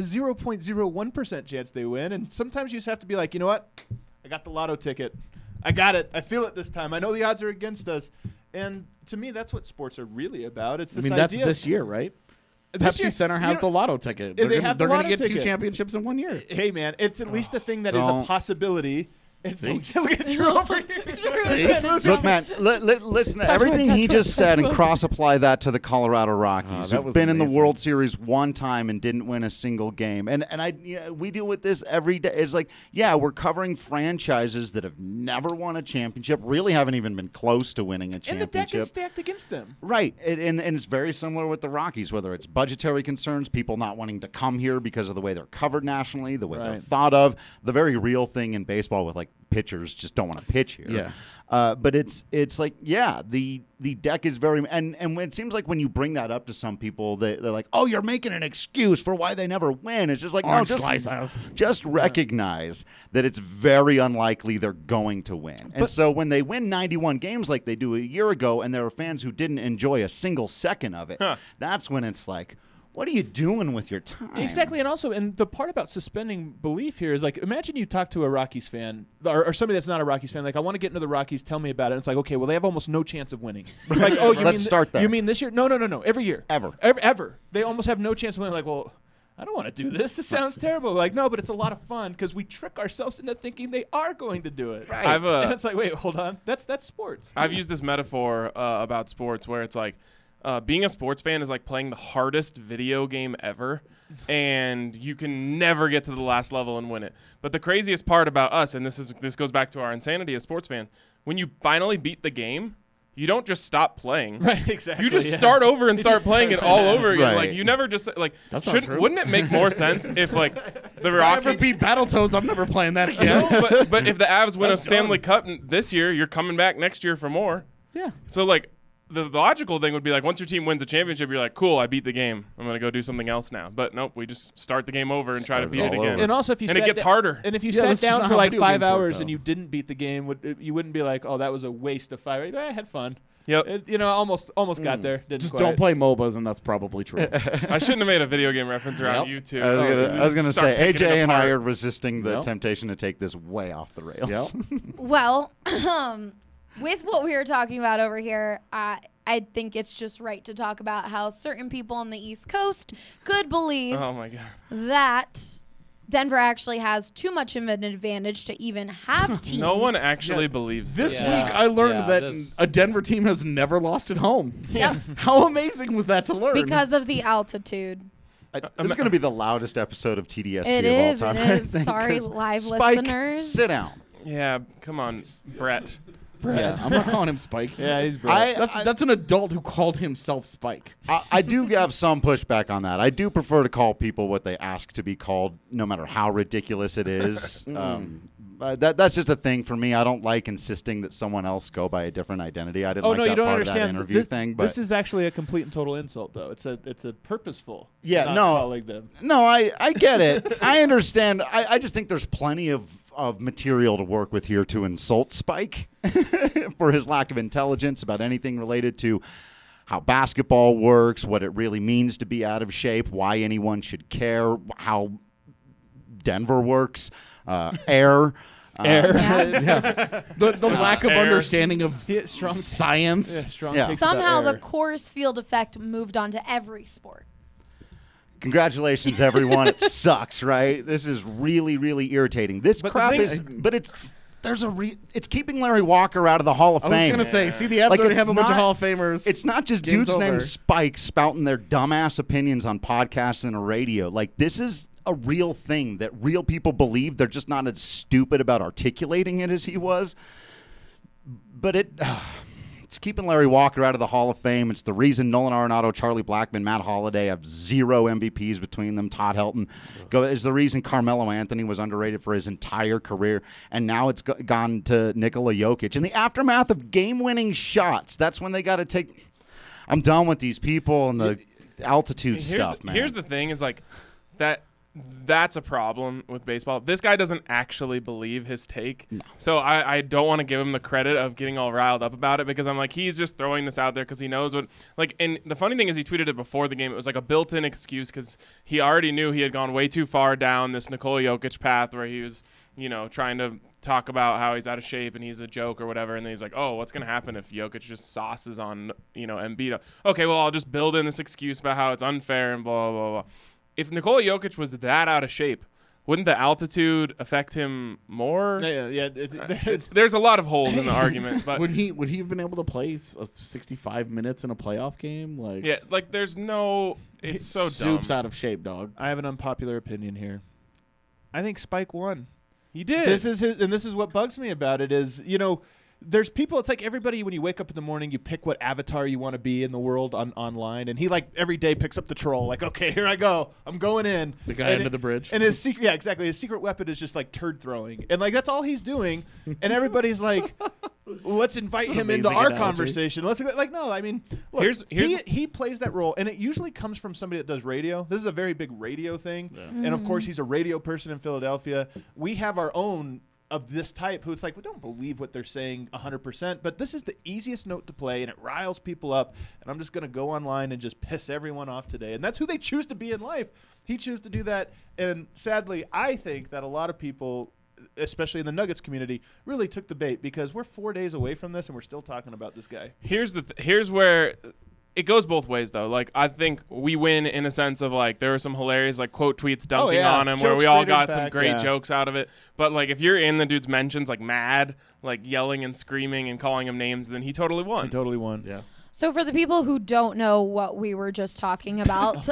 S10: 0.01% chance they win. And sometimes you just have to be like, you know what? I got the lotto ticket. I got it. I feel it this time. I know the odds are against us. And to me, that's what sports are really about. It's this
S11: that's
S10: idea.
S11: this year, right?
S10: This year,
S11: Pepsi Center has the lotto ticket.
S10: They
S11: They're
S10: have the
S11: going to
S10: lotto
S11: get two
S10: ticket.
S11: championships in 1 year.
S10: Hey, man, it's at least a thing that is a
S8: Don't.
S10: possibility.
S11: See?
S10: Look at Drew over here.
S8: Look, man, listen to everything he just said and cross-apply that to the Colorado Rockies,
S11: that
S8: who've
S11: was
S8: been in the
S11: amazing.
S8: World Series one time and didn't win a single game. And we deal with this every day. It's like, we're covering franchises that have never won a championship, really haven't even been close to winning a
S10: And
S8: championship.
S10: the deck is stacked against them.
S8: Right, and it's very similar with the Rockies, whether it's budgetary concerns, people not wanting to come here because of the way they're covered nationally, the way they're
S10: Right.
S8: thought of, the very real thing in baseball with like pitchers just don't want to pitch here.
S11: Yeah.
S8: But it's like, the deck is very, and when it seems like when you bring that up to some people, they're like, oh, you're making an excuse for why they never win. It's just like,
S11: Orange
S8: no,
S11: slices.
S8: just recognize that it's very unlikely they're going to win. And so when they win 91 games like they do a year ago, and there are fans who didn't enjoy a single second of it, that's when it's like, what are you doing with your time?
S10: Exactly, and the part about suspending belief here is like, imagine you talk to a Rockies fan or somebody that's not a Rockies fan, like, I want to get into the Rockies, tell me about it. And it's like, okay, well, they have almost no chance of winning. Like, oh,
S8: Let's start there.
S10: You mean this year? No, every year.
S8: Ever.
S10: They almost have no chance of winning. Like, well, I don't want to do this. This sounds terrible. Like, no, but it's a lot of fun because we trick ourselves into thinking they are going to do it.
S7: Right.
S10: And it's like, wait, hold on. That's sports.
S7: I've used this metaphor about sports where it's like, being a sports fan is like playing the hardest video game ever, and you can never get to the last level and win it. But the craziest part about us, and this goes back to our insanity as sports fans, when you finally beat the game, you don't just stop playing.
S10: Right, exactly.
S7: You just start over and start playing it all over again.
S8: Right.
S7: Like, you never just like.
S11: That's not true.
S7: Wouldn't it make more sense if like the
S11: If I ever
S7: Rockies
S11: beat Battletoads, I'm never playing that again.
S7: No, but if the Avs win a
S11: That's
S7: Stanley
S11: done.
S7: Cup this year, you're coming back next year for more.
S11: Yeah.
S7: So like the logical thing would be like, once your team wins a championship, you're like, cool, I beat the game. I'm gonna go do something else now. But nope, we just start the game over and try to beat it
S8: all
S7: again.
S8: over.
S10: And also, if you
S7: and it
S10: sat
S7: gets
S10: da-
S7: harder.
S10: And if you
S11: Yeah,
S10: sat
S11: that's just
S10: down
S11: not
S10: for
S11: how
S10: like
S11: video
S10: 5
S11: games work,
S10: hours
S11: though.
S10: and you didn't beat the game, you wouldn't be like, oh, that was a waste of 5 hours. I had fun.
S7: Yep.
S10: Almost got there. Didn't
S11: Just
S10: quite.
S11: don't play MOBAs, and that's probably true.
S7: I shouldn't have made a video game reference around
S11: Yep.
S7: you two.
S8: I was gonna
S7: Start
S8: say,
S7: picking
S8: AJ
S7: it
S8: and I
S7: apart.
S8: are resisting the
S11: Yep.
S8: temptation to take this way off the rails.
S11: Yep.
S6: Well, with what we were talking about over here, I think it's just right to talk about how certain people on the East Coast could believe
S7: Oh my god.
S6: that Denver actually has too much of an advantage to even have teams.
S7: No one actually believes
S11: This
S7: this.
S11: week, I learned that
S9: this-
S11: a Denver team has never lost at home.
S6: Yep.
S11: How amazing was that to learn?
S6: Because of the altitude.
S8: This is going to be the loudest episode of TDSP
S6: It
S8: of
S6: is.
S8: all time.
S6: It
S8: I
S6: is.
S8: think,
S6: Sorry,
S8: 'cause
S6: live
S8: Spike,
S6: listeners.
S8: sit down.
S7: Yeah, come on, Brett.
S11: Yeah, I'm not calling him Spike.
S10: Yeah, he's brilliant.
S11: That's an adult who called himself Spike.
S8: I do have some pushback on that. I do prefer to call people what they ask to be called, no matter how ridiculous it is. That's just a thing for me. I don't like insisting that someone else go by a different identity. I didn't
S10: Oh
S8: like
S10: no,
S8: that
S10: you don't
S8: part
S10: understand.
S8: of that interview
S10: this,
S8: thing. But
S10: this is actually a complete and total insult, though. It's a purposeful.
S8: Yeah,
S10: not
S8: no.
S10: calling them.
S8: No, I get it. I understand. I just think there's plenty of of material to work with here to insult Spike for his lack of intelligence about anything related to how basketball works, what it really means to be out of shape, why anyone should care, how Denver works, air.
S11: The lack of understanding of
S10: strong
S11: science.
S10: Strong
S8: Yeah.
S10: takes
S6: Somehow
S10: about
S6: the
S10: air.
S6: Coors Field effect moved on to every sport.
S8: Congratulations, everyone. It sucks, right? This is really, really irritating. This
S7: But the
S8: crap
S7: thing-
S8: is, but it's it's keeping Larry Walker out of the Hall of
S11: I was
S8: Fame.
S11: going to say, see, the Avs
S8: Like,
S11: already
S8: it's
S11: have a bunch of
S8: not-
S11: Hall of Famers.
S8: It's not just
S11: Game's
S8: dudes
S11: over.
S8: named Spike spouting their dumbass opinions on podcasts and the radio. Like, this is a real thing that real people believe. They're just not as stupid about articulating it as he was. But it's keeping Larry Walker out of the Hall of Fame. It's the reason Nolan Arenado, Charlie Blackmon, Matt Holliday have 0 MVPs between them. Todd Helton is the reason Carmelo Anthony was underrated for his entire career. And now it's gone to Nikola Jokic. In the aftermath of game-winning shots, that's when they got to take – I'm done with these people and the altitude stuff, man.
S7: Here's the thing is like that's a problem with baseball. This guy doesn't actually believe his take. No. So I don't want to give him the credit of getting all riled up about it because I'm like, he's just throwing this out there because he knows what – like, and the funny thing is he tweeted it before the game. It was like a built-in excuse because he already knew he had gone way too far down this Nikola Jokic path where he was, trying to talk about how he's out of shape and he's a joke or whatever. And then he's like, oh, what's going to happen if Jokic just sauces on, Embiid? Okay, well, I'll just build in this excuse about how it's unfair and blah, blah, blah. If Nikola Jokic was that out of shape, wouldn't the altitude affect him more?
S10: Yeah.
S7: There's a lot of holes in the argument, but
S11: would he have been able to play 65 minutes in a playoff game?
S7: There's no. It's so dumb.
S11: Soup's out of shape, dog.
S10: I have an unpopular opinion here. I think Spike won.
S7: He did.
S10: This is what bugs me about it is, there's people, it's like everybody, when you wake up in the morning, you pick what avatar you want to be in the world online, and he, every day picks up the troll, okay, here I go. I'm going in.
S11: The guy under the bridge.
S10: And his secret, yeah, exactly. His secret weapon is just, turd throwing. And, that's all he's doing, and everybody's like, let's invite him into our conversation. Let's, no, I mean, look, he plays that role, and it usually comes from somebody that does radio. This is a very big radio thing, and, of course, he's a radio person in Philadelphia. We have our own of this type who it's like, we don't believe what they're saying 100%, but this is the easiest note to play, and it riles people up, and I'm just going to go online and just piss everyone off today. And that's who they choose to be in life. He chooses to do that, and sadly, I think that a lot of people, especially in the Nuggets community, really took the bait because we're 4 days away from this, and we're still talking about this guy.
S7: Here's where it goes both ways, though. I think we win in a sense of, there were some hilarious, quote tweets dunking on him where we all got some great jokes out of it. But, if you're in the dude's mentions, mad, yelling and screaming and calling him names, then he totally won.
S10: He totally won.
S11: Yeah.
S6: So for the people who don't know what we were just talking about,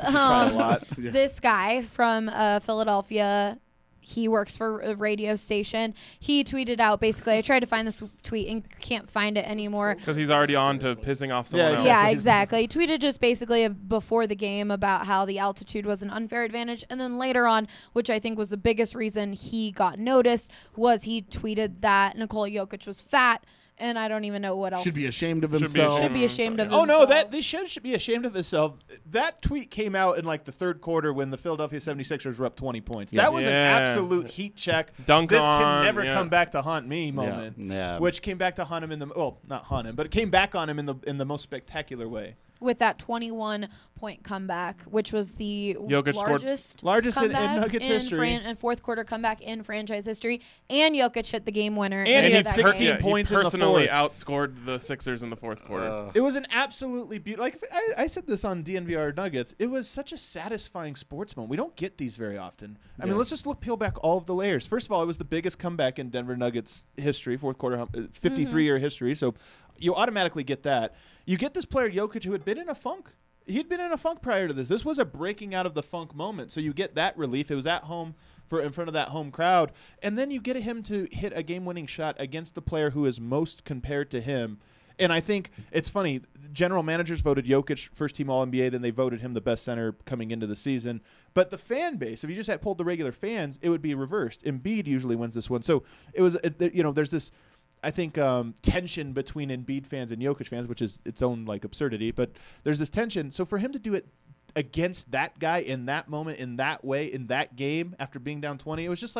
S6: this guy from Philadelphia, he works for a radio station. He tweeted out, basically, I tried to find this tweet and can't find it anymore.
S7: Because he's already on to pissing off someone else.
S6: Yeah, exactly. He tweeted just basically before the game about how the altitude was an unfair advantage. And then later on, which I think was the biggest reason he got noticed, was he tweeted that Nikola Jokic was fat. And I don't even know what else.
S11: Should be ashamed of himself.
S6: Should be ashamed of
S10: himself.
S6: himself.
S10: Oh, no, they should be ashamed of himself. That tweet came out in the third quarter when the Philadelphia 76ers were up 20 points. Yeah. That was an absolute heat check. This can never come back to haunt me moment.
S8: Yeah.
S10: Which came back to haunt him not haunt him, but it came back on him in the most spectacular way.
S6: With that 21-point comeback, which was the
S10: largest in Nuggets history.
S6: And fourth quarter comeback in franchise history. And Jokic hit the game winner.
S10: And he had 16 points in the fourth.
S7: He personally outscored the Sixers in the fourth quarter.
S10: It was an absolutely beautiful. I said this on DNVR Nuggets. It was such a satisfying sports moment. We don't get these very often. I mean, let's just peel back all of the layers. First of all, it was the biggest comeback in Denver Nuggets history, fourth quarter, 53-year history. So you automatically get that. You get this player, Jokic, who had been in a funk. He'd been in a funk prior to this. This was a breaking out of the funk moment. So you get that relief. It was at home in front of that home crowd. And then you get him to hit a game-winning shot against the player who is most compared to him. And I think it's funny. General managers voted Jokic first-team All-NBA. Then they voted him the best center coming into the season. But the fan base, if you just had pulled the regular fans, it would be reversed. Embiid usually wins this one. So it was, there's this, I think, tension between Embiid fans and Jokic fans, which is its own absurdity. But there's this tension. So for him to do it against that guy in that moment, in that way, in that game, after being down 20, it was just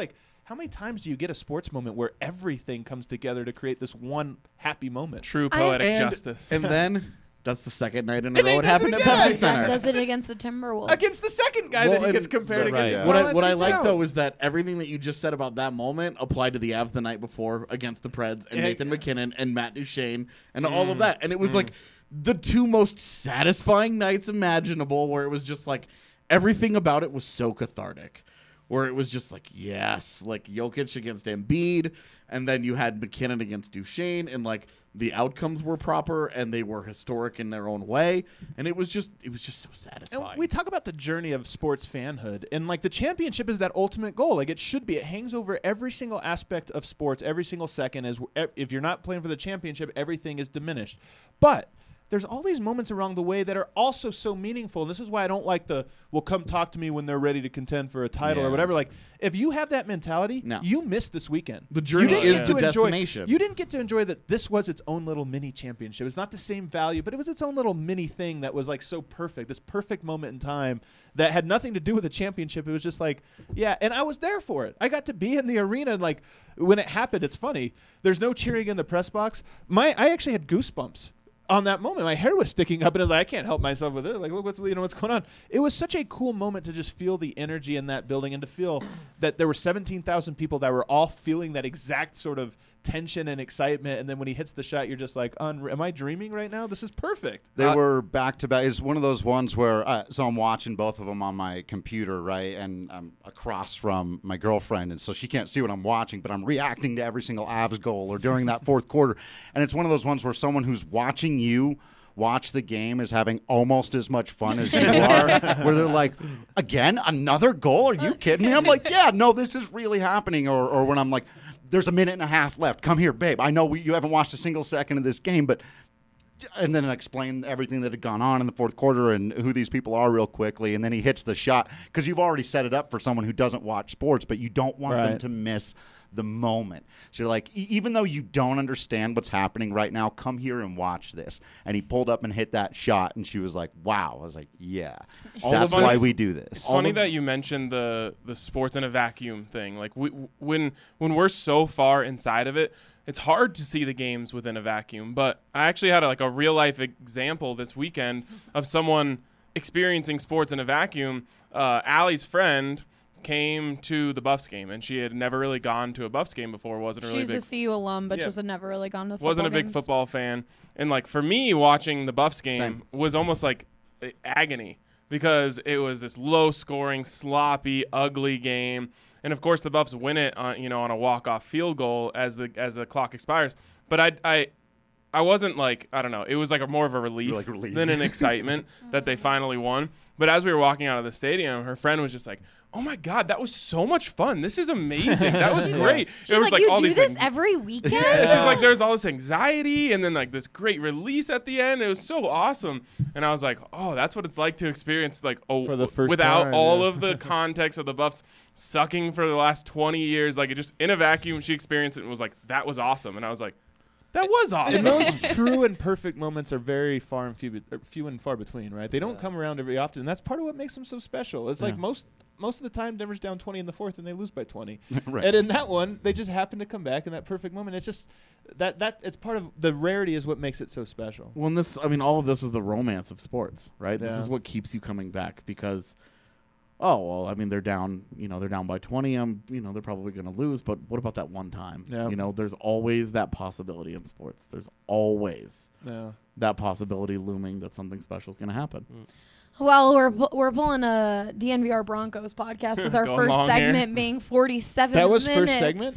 S10: how many times do you get a sports moment where everything comes together to create this one happy moment?
S7: True poetic justice.
S11: And then that's the second night in a row it happened at Pepsi Center.
S6: Does it against the Timberwolves.
S10: Against the second guy that he gets compared against.
S11: What I like though is that everything that you just said about that moment applied to the Avs the night before against the Preds and Nathan McKinnon and Matt Duchene and all of that. And it was like the two most satisfying nights imaginable, where it was just like everything about it was so cathartic. Where it was just like, yes, like Jokic against Embiid, and then you had McKinnon against Duchene, and like the outcomes were proper and they were historic in their own way, and it was just so satisfying.
S10: And we talk about the journey of sports fanhood, and like the championship is that ultimate goal. Like it should be. It hangs over every single aspect of sports, every single second. If you're not playing for the championship, everything is diminished. But there's all these moments along the way that are also so meaningful. And this is why I don't like well, come talk to me when they're ready to contend for a title or whatever. Like, if you have that mentality, you missed this weekend.
S11: The journey is the destination.
S10: You didn't get to enjoy that this was its own little mini championship. It's not the same value, but it was its own little mini thing that was like so perfect, this perfect moment in time that had nothing to do with the championship. It was just like, yeah, and I was there for it. I got to be in the arena, and like when it happened, it's funny. There's no cheering in the press box. I actually had goosebumps on that moment. My hair was sticking up, and I was like, I can't help myself with it. Like, look, what's going on? It was such a cool moment to just feel the energy in that building and to feel that there were 17,000 people that were all feeling that exact sort of tension and excitement. And then when he hits the shot, you're just like, am I dreaming right now? This is perfect.
S8: They were back to back. It's one of those ones where, so I'm watching both of them on my computer, right? And I'm across from my girlfriend, and so she can't see what I'm watching, but I'm reacting to every single Avs goal or during that fourth quarter. And it's one of those ones where someone who's watching you watch the game is having almost as much fun as you are, where they're like, again, another goal? Are you kidding me? I'm like, yeah, no, this is really happening. Or when I'm like, there's a minute and a half left. Come here, babe. I know you haven't watched a single second of this game, but and then explain everything that had gone on in the fourth quarter and who these people are real quickly. And then he hits the shot because you've already set it up for someone who doesn't watch sports, but you don't want them to miss the moment. So you're like, even though you don't understand what's happening right now, come here and watch this. And he pulled up and hit that shot, and she was like, wow. I was like, yeah, that's why we do this.
S7: It's funny that you mentioned the sports in a vacuum thing. Like when we're so far inside of it, it's hard to see the games within a vacuum. But I actually had a real life example this weekend of someone experiencing sports in a vacuum. Allie's friend came to the Buffs game, and she had never really gone to a Buffs game before.
S6: She's a CU alum, but just had never really gone to football
S7: wasn't a big
S6: games.
S7: football fan. And like for me, watching the Buffs game was almost like agony because it was this low-scoring, sloppy, ugly game. And of course, the Buffs win it on a walk-off field goal as the clock expires. But I wasn't like, I don't know. It was like more of a relief than an excitement that they finally won. But as we were walking out of the stadium, her friend was just like, "Oh my God, that was so much fun! This is amazing! That was great!"
S6: She's
S7: it was
S6: like, "You
S7: all
S6: do
S7: these
S6: this
S7: things.
S6: every weekend?"
S7: Yeah, she's like, "There's all this anxiety, and then like this great release at the end. It was so awesome." And I was like, "Oh, that's what it's like to experience
S10: for the first
S7: without
S10: time,
S7: all of the context of the Buffs sucking for the last 20 years. Like it just in a vacuum, she experienced it and was like, that was awesome." And I was like, that was awesome.
S10: And those true and perfect moments are very few and far between, right? They don't come around very often, and that's part of what makes them so special. It's like most of the time, Denver's down 20 in the fourth, and they lose by 20.
S8: Right.
S10: And in that one, they just happen to come back in that perfect moment. It's just that it's part of the rarity is what makes it so special.
S11: Well, all of this is the romance of sports, right?
S10: Yeah.
S11: This is what keeps you coming back because, they're down, they're down by 20. They're probably going to lose, but what about that one time?
S10: Yeah.
S11: There's always that possibility in sports. There's always that possibility looming that something special is going to happen.
S6: Well, we're pulling a DNVR Broncos podcast with our first segment being 47 minutes.
S10: That was first segment?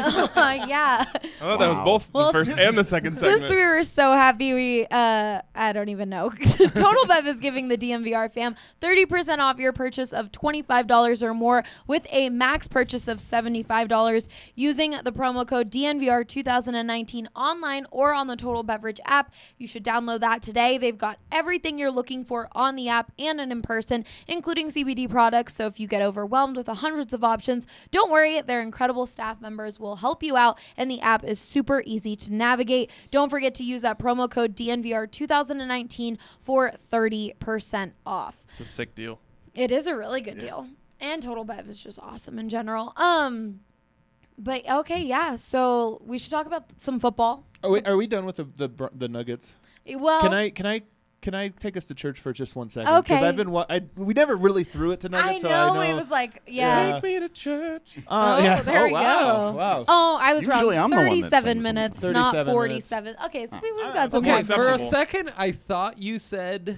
S6: Yeah.
S7: I thought that was both the first and the second segment.
S6: Since we were so happy, I don't even know. Total Bev is giving the DNVR fam 30% off your purchase of $25 or more with a max purchase of $75 using the promo code DNVR 2019 online or on the Total Beverage app. You should download that today. They've got everything you're looking for on the app and in person, including CBD products. So if you get overwhelmed with the hundreds of options, don't worry. Their incredible staff members will help you out, and the app is super easy to navigate. Don't forget to use that promo code DNVR 2019 for 30% off.
S7: It's a sick deal.
S6: It is a really good deal. And Total Bev is just awesome in general. But okay, yeah. So we should talk about some football.
S10: Are we done with the Nuggets?
S6: Well,
S10: Can I take us to church for just 1 second?
S6: Okay.
S10: Because I've been we never really threw it to Nuggets.
S6: I know it was like
S10: Yeah.
S7: Take me to church.
S6: There we
S10: wow.
S6: go.
S10: Wow.
S6: Oh, I was
S8: Usually
S6: wrong.
S8: I'm the one that
S6: 37
S8: sings
S6: minutes,
S8: them.
S6: not
S10: 37
S6: 47. Okay, so we've got some
S9: Okay,
S6: more.
S9: for a
S7: acceptable.
S9: second, I thought you said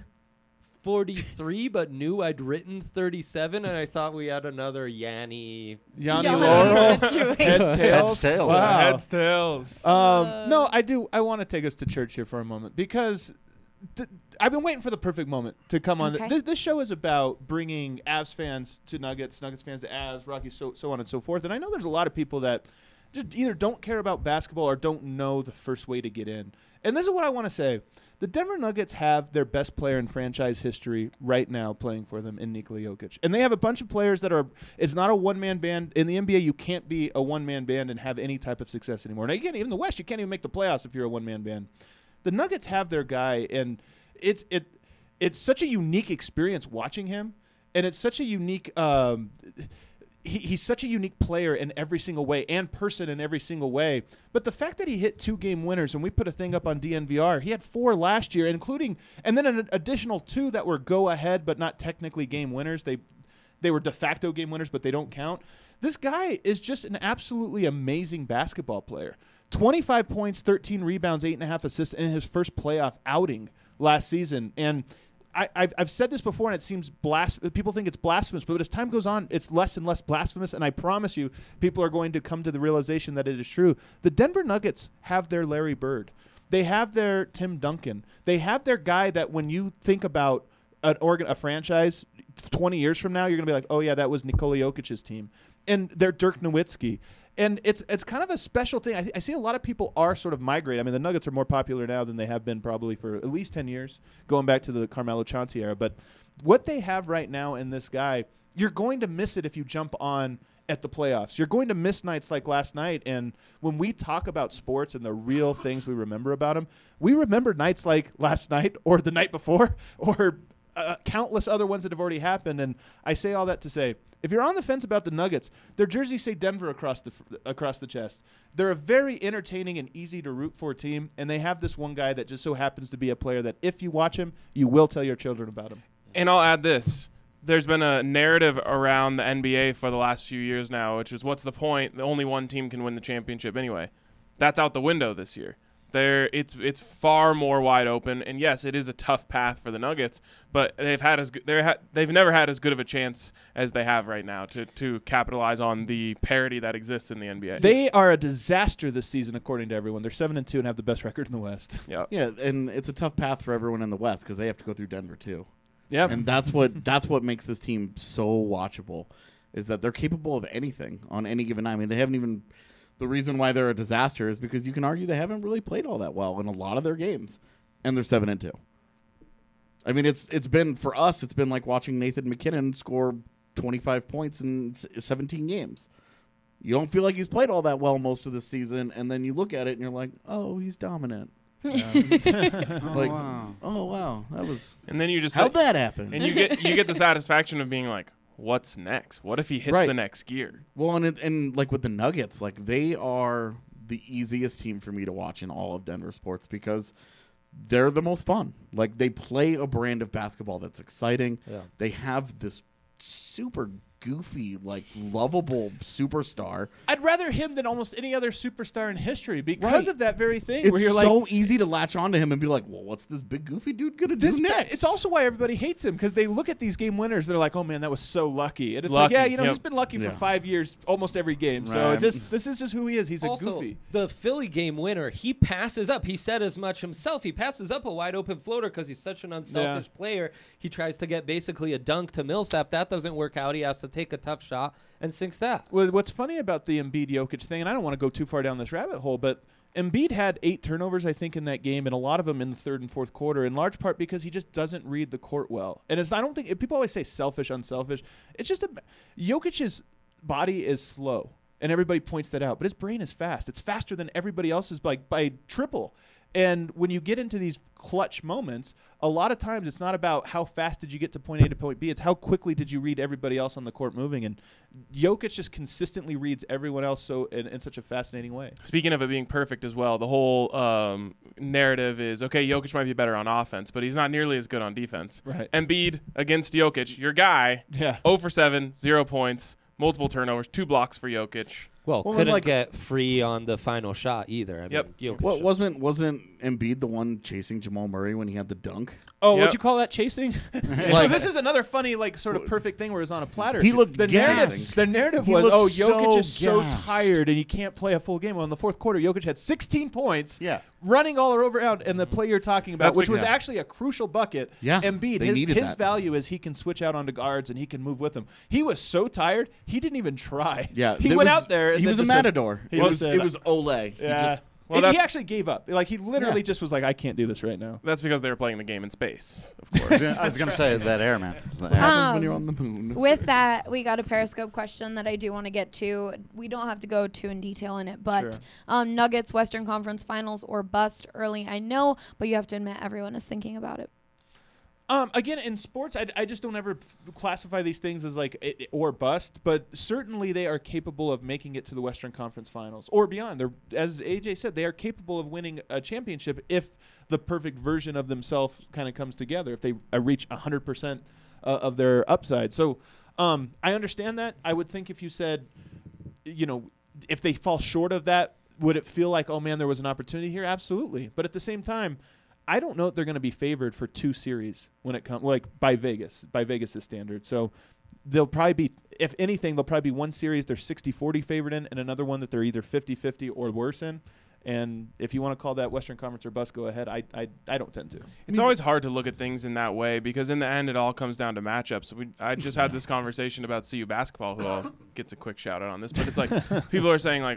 S9: 43, but knew I'd written 37, and I thought we had another Yanni.
S10: Yanni
S6: Yanni
S10: Laurel.
S6: situation.
S10: Heads, tails.
S8: Heads, tails.
S10: Wow.
S7: Heads, tails.
S10: No, I do. I want to take us to church here for a moment because I've been waiting for the perfect moment to come on.
S6: Okay.
S10: This show is about bringing Avs fans to Nuggets, Nuggets fans to Avs, Rockies, so on and so forth. And I know there's a lot of people that just either don't care about basketball or don't know the first way to get in. And this is what I want to say. The Denver Nuggets have their best player in franchise history right now playing for them in Nikola Jokic. And they have a bunch of players that are – it's not a one-man band. In the NBA, you can't be a one-man band and have any type of success anymore. Now, you can't, even in the West, you can't even make the playoffs if you're a one-man band. The Nuggets have their guy, and it's such a unique experience watching him, and it's such a unique he's such a unique player in every single way and person in every single way. But the fact that he hit 2 game winners, and we put a thing up on DNVR, he had 4 last year, including and then an additional 2 that were go ahead but not technically game winners. They were de facto game winners, but they don't count. This guy is just an absolutely amazing basketball player. 25 points, 13 rebounds, 8.5 assists in his first playoff outing last season. And I've said this before, and it seems people think it's blasphemous, but as time goes on, it's less and less blasphemous, and I promise you, people are going to come to the realization that it is true. The Denver Nuggets have their Larry Bird. They have their Tim Duncan. They have their guy that when you think about a franchise 20 years from now, you're going to be like, oh, yeah, that was Nikola Jokic's team. And they're Dirk Nowitzki. And it's kind of a special thing. I see a lot of people are sort of migrating. I mean, the Nuggets are more popular now than they have been probably for at least 10 years, going back to the Carmelo Chauncey era. But what they have right now in this guy, you're going to miss it if you jump on at the playoffs. You're going to miss nights like last night. And when we talk about sports and the real things we remember about them, we remember nights like last night or the night before or countless other ones that have already happened. And I say all that to say, if you're on the fence about the Nuggets, their jerseys say Denver across the chest. They're a very entertaining and easy to root for team, and they have this one guy that just so happens to be a player that if you watch him, you will tell your children about him.
S7: And I'll add this. There's been a narrative around the NBA for the last few years now, which is what's the point? Only one team can win the championship anyway. That's out the window this year. It's far more wide open, and yes, it is a tough path for the Nuggets, but they've never had as good of a chance as they have right now to capitalize on the parity that exists in the NBA.
S10: They are a disaster this season, according to everyone. They're 7-2 and have the best record in the West.
S7: Yep.
S11: Yeah, and it's a tough path for everyone in the West because they have to go through Denver too.
S10: Yeah,
S11: and that's what makes this team so watchable, is that they're capable of anything on any given night. I mean, they haven't even. The reason why they're a disaster is because you can argue they haven't really played all that well in a lot of their games, and they're 7-2. I mean, it's been for us. It's been like watching Nathan McKinnon score 25 points in 17 games. You don't feel like he's played all that well most of the season, and then you look at it and you're like, oh, he's dominant. Like, oh wow, that was.
S7: And then you just
S11: how'd that happen?
S7: And you get the satisfaction of being like, what's next? What if he hits the next gear?
S11: Well, and like with the Nuggets, like they are the easiest team for me to watch in all of Denver sports because they're the most fun. Like they play a brand of basketball that's exciting.
S9: Yeah.
S11: They have this super goofy, like lovable superstar.
S10: I'd rather him than almost any other superstar in history because of that very thing.
S11: It's
S10: where you're
S11: so
S10: like,
S11: easy to latch onto him and be like, well, what's this big goofy dude going to do next?
S10: It's also why everybody hates him because they look at these game winners. They're like, oh, man, that was so lucky. And it's
S7: Lucky,
S10: like, yeah,
S7: yep.
S10: he's been lucky for 5 years, almost every game. So
S11: Right.
S10: this is just who he is. He's
S9: Also,
S10: a goofy.
S9: the Philly game winner, he passes up. He said as much himself. He passes up a wide open floater because he's such an unselfish player. He tries to get basically a dunk to Millsap. That doesn't work out. He has to take a tough shot and sinks that.
S10: Well, what's funny about the Embiid-Jokic thing, and I don't want to go too far down this rabbit hole, but Embiid had 8 turnovers, I think, in that game, and a lot of them in the third and fourth quarter, in large part because he just doesn't read the court well. And I don't think people always say selfish, unselfish. It's just Jokic's body is slow, and everybody points that out, but his brain is fast. It's faster than everybody else's by triple. And when you get into these clutch moments, a lot of times it's not about how fast did you get to point A to point B. It's how quickly did you read everybody else on the court moving. And Jokic just consistently reads everyone else so in such a fascinating way.
S7: Speaking of it being perfect as well, the whole narrative is, okay, Jokic might be better on offense, but he's not nearly as good on defense.
S10: Right.
S7: Embiid against Jokic, your guy, 0 for 7, 0 points, multiple turnovers, 2 blocks for Jokic.
S9: Well, couldn't get free on the final shot either. I mean, Jokic
S11: wasn't Embiid the one chasing Jamal Murray when he had the dunk?
S10: Oh, what'd you call that, chasing? So this is another funny, sort of perfect thing where it's on a platter.
S8: He looked
S10: the narrative was, Jokic is so
S8: gassed.
S10: tired and he can't play a full game. Well, in the fourth quarter, Jokic had 16 points, running all around, and the play you're talking about, which was actually a crucial bucket.
S11: Yeah,
S10: Embiid, his value is he can switch out onto guards and he can move with them. He was so tired, he didn't even try.
S11: Yeah,
S10: he went out there. And
S11: he was a matador. It was Ole.
S10: Yeah. He actually gave up. He literally just was like, I can't do this right now.
S7: That's because they were playing the game in space, of course.
S8: I was going to say that air, man.
S11: What happens when you're on the moon?
S6: With that, we got a Periscope question that I do want to get to. We don't have to go too in detail in it, but Nuggets, Western Conference Finals, or bust early, I know, but you have to admit everyone is thinking about it.
S10: Again, in sports, I just don't ever classify these things as or bust, but certainly they are capable of making it to the Western Conference Finals or beyond. They're, as AJ said, they are capable of winning a championship if the perfect version of themselves kind of comes together, if they reach 100% of their upside. So I understand that. I would think if you said, if they fall short of that, would it feel like, oh, man, there was an opportunity here? Absolutely. But at the same time, I don't know if they're going to be favored for 2 series when it comes, by Vegas' standard. So they'll probably be, if anything, they'll probably be one series they're 60-40 favored in, and another one that they're either 50-50 or worse in. And if you want to call that Western Conference or bust, go ahead. I don't tend to.
S7: It's always hard to look at things in that way because in the end, it all comes down to matchups. I just had this conversation about CU basketball, who gets a quick shout out on this, but it's like people are saying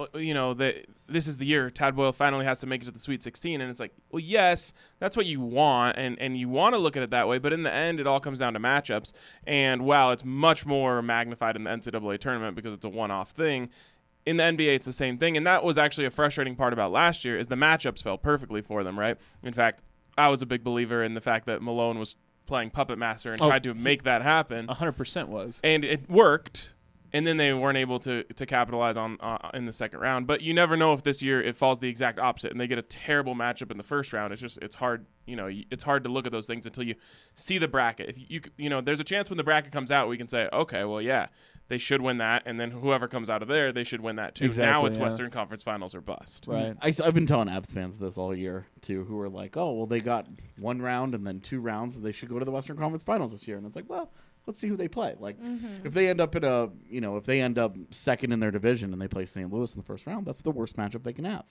S7: this is the year Tad Boyle finally has to make it to the Sweet 16, and it's like, well, yes, that's what you want, and you want to look at it that way, but in the end, it all comes down to matchups. And while it's much more magnified in the NCAA tournament because it's a one-off thing, in the NBA, it's the same thing, and that was actually a frustrating part about last year is the matchups fell perfectly for them, right? In fact, I was a big believer in the fact that Malone was playing Puppet Master and tried to make that happen.
S10: 100% was.
S7: And it worked, and then they weren't able to capitalize on in the second round. But you never know if this year it falls the exact opposite, and they get a terrible matchup in the first round. It's hard. It's hard to look at those things until you see the bracket. If there's a chance when the bracket comes out, we can say, okay, well, yeah, they should win that, and then whoever comes out of there, they should win that too.
S10: Exactly,
S7: now it's Western Conference Finals or bust.
S10: Right.
S11: I've been telling Avs fans this all year too, who are like, oh, well, they got 1 round and then 2 rounds, so they should go to the Western Conference Finals this year. And it's like, well, let's see who they play. If they end up if they end up second in their division and they play St. Louis in the first round, that's the worst matchup they can have.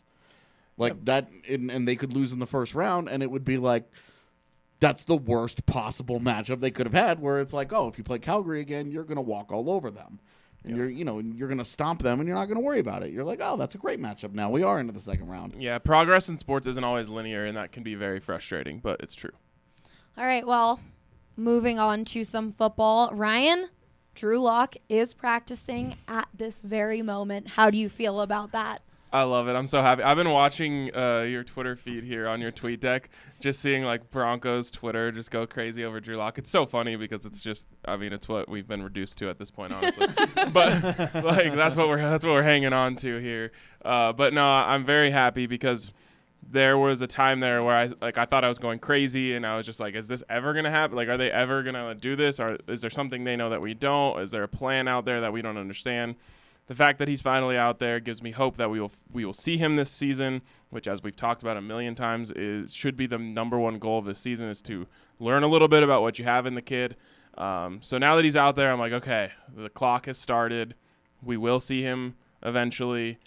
S11: That, and they could lose in the first round, and it would be like, that's the worst possible matchup they could have had, where it's like, oh, if you play Calgary again, you're going to walk all over them. And you're going to stomp them, and you're not going to worry about it. You're like, oh, that's a great matchup. Now we are into the second round.
S7: Yeah, progress in sports isn't always linear, and that can be very frustrating, but it's true.
S6: All right, well, moving on to some football. Ryan, Drew Lock is practicing at this very moment. How do you feel about that?
S7: I love it. I'm so happy. I've been watching your Twitter feed here on your tweet deck, just seeing Broncos Twitter just go crazy over Drew Lock. It's so funny because it's just, it's what we've been reduced to at this point, honestly. But that's what we're hanging on to here. But no, I'm very happy because there was a time there where I thought I was going crazy, and I was just like, is this ever gonna happen? Are they ever gonna do this? Or is there something they know that we don't? Is there a plan out there that we don't understand? The fact that he's finally out there gives me hope that we will see him this season, which, as we've talked about a million times, should be the number one goal of this season, is to learn a little bit about what you have in the kid. So now that he's out there, I'm like, okay, the clock has started. We will see him eventually,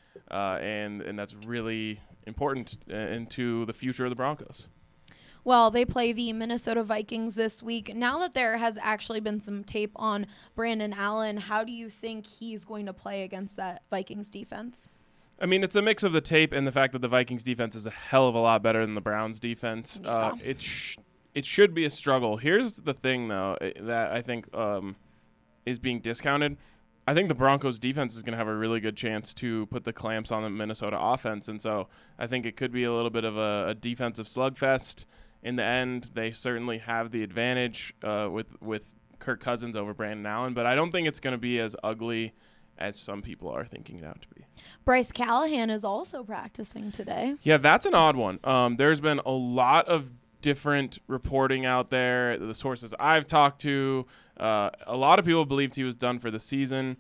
S7: and that's really important into the future of the Broncos.
S6: Well, they play the Minnesota Vikings this week. Now that there has actually been some tape on Brandon Allen, how do you think he's going to play against that Vikings defense?
S7: It's a mix of the tape and the fact that the Vikings defense is a hell of a lot better than the Browns defense.
S6: Yeah.
S7: It should be a struggle. Here's the thing, though, that I think is being discounted. I think the Broncos defense is going to have a really good chance to put the clamps on the Minnesota offense. And so I think it could be a little bit of a defensive slugfest. In the end, they certainly have the advantage with Kirk Cousins over Brandon Allen, but I don't think it's going to be as ugly as some people are thinking it out to be.
S6: Bryce Callahan is also practicing today.
S7: Yeah, that's an odd one. There's been a lot of different reporting out there. The sources I've talked to, a lot of people believed he was done for the season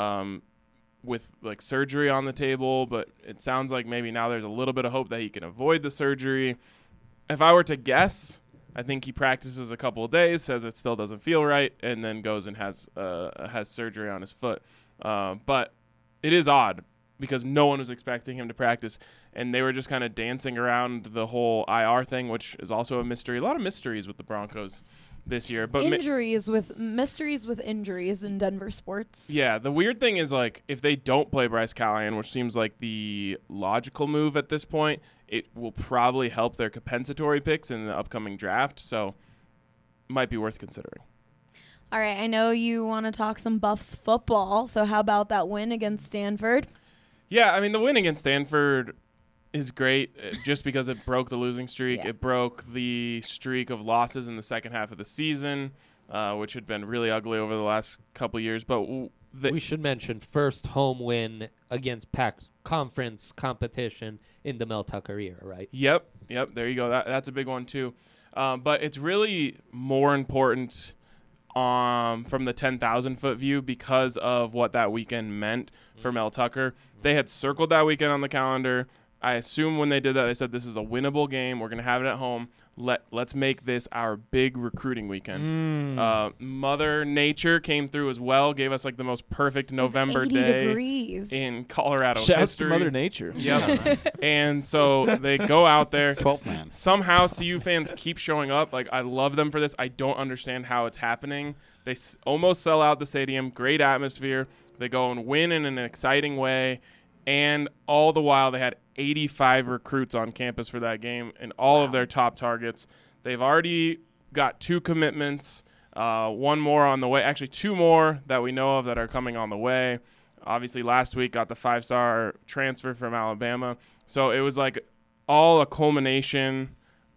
S7: with like surgery on the table, but it sounds like maybe now there's a little bit of hope that he can avoid the surgery. If I were to guess, I think he practices a couple of days, says it still doesn't feel right, and then goes and has surgery on his foot. But it is odd because no one was expecting him to practice, and they were just kind of dancing around the whole IR thing, which is also a mystery. A lot of mysteries with the Broncos this year. But
S6: mysteries with injuries in Denver sports.
S7: Yeah, the weird thing is, like, if they don't play Bryce Callahan, which seems like the logical move at this point, it will probably help their compensatory picks in the upcoming draft, so might be worth considering.
S6: All right, I know you want to talk some Buffs football, so how about that win against Stanford?
S7: Yeah, I mean, the win against Stanford is great just because it broke the losing streak.
S6: Yeah.
S7: It broke the streak of losses in the second half of the season, which had been really ugly over the last couple years. But
S9: we should mention first home win against Pac conference competition in the Mel Tucker era, right?
S7: Yep, there you go. That's a big one too. But it's really more important from the 10,000-foot view because of what that weekend meant for Mel Tucker. They had circled that weekend on the calendar. I assume when they did that, they said, this is a winnable game. We're going to have it at home. Let's make this our big recruiting weekend. Mother Nature came through as well, gave us like the most perfect November
S6: 80
S7: day
S6: degrees.
S7: in Colorado
S10: Shouts
S7: history.
S10: to Mother Nature.
S7: Yep. And so they go out there.
S8: 12th man.
S7: Somehow CU fans keep showing up. Like, I love them for this. I don't understand how it's happening. They almost sell out the stadium. Great atmosphere. They go and win in an exciting way. And all the while, they had 85 recruits on campus for that game and all of their top targets. They've already got 2 commitments, one more on the way. Actually, 2 more that we know of that are coming on the way. Obviously, last week got the 5-star transfer from Alabama. So it was like all a culmination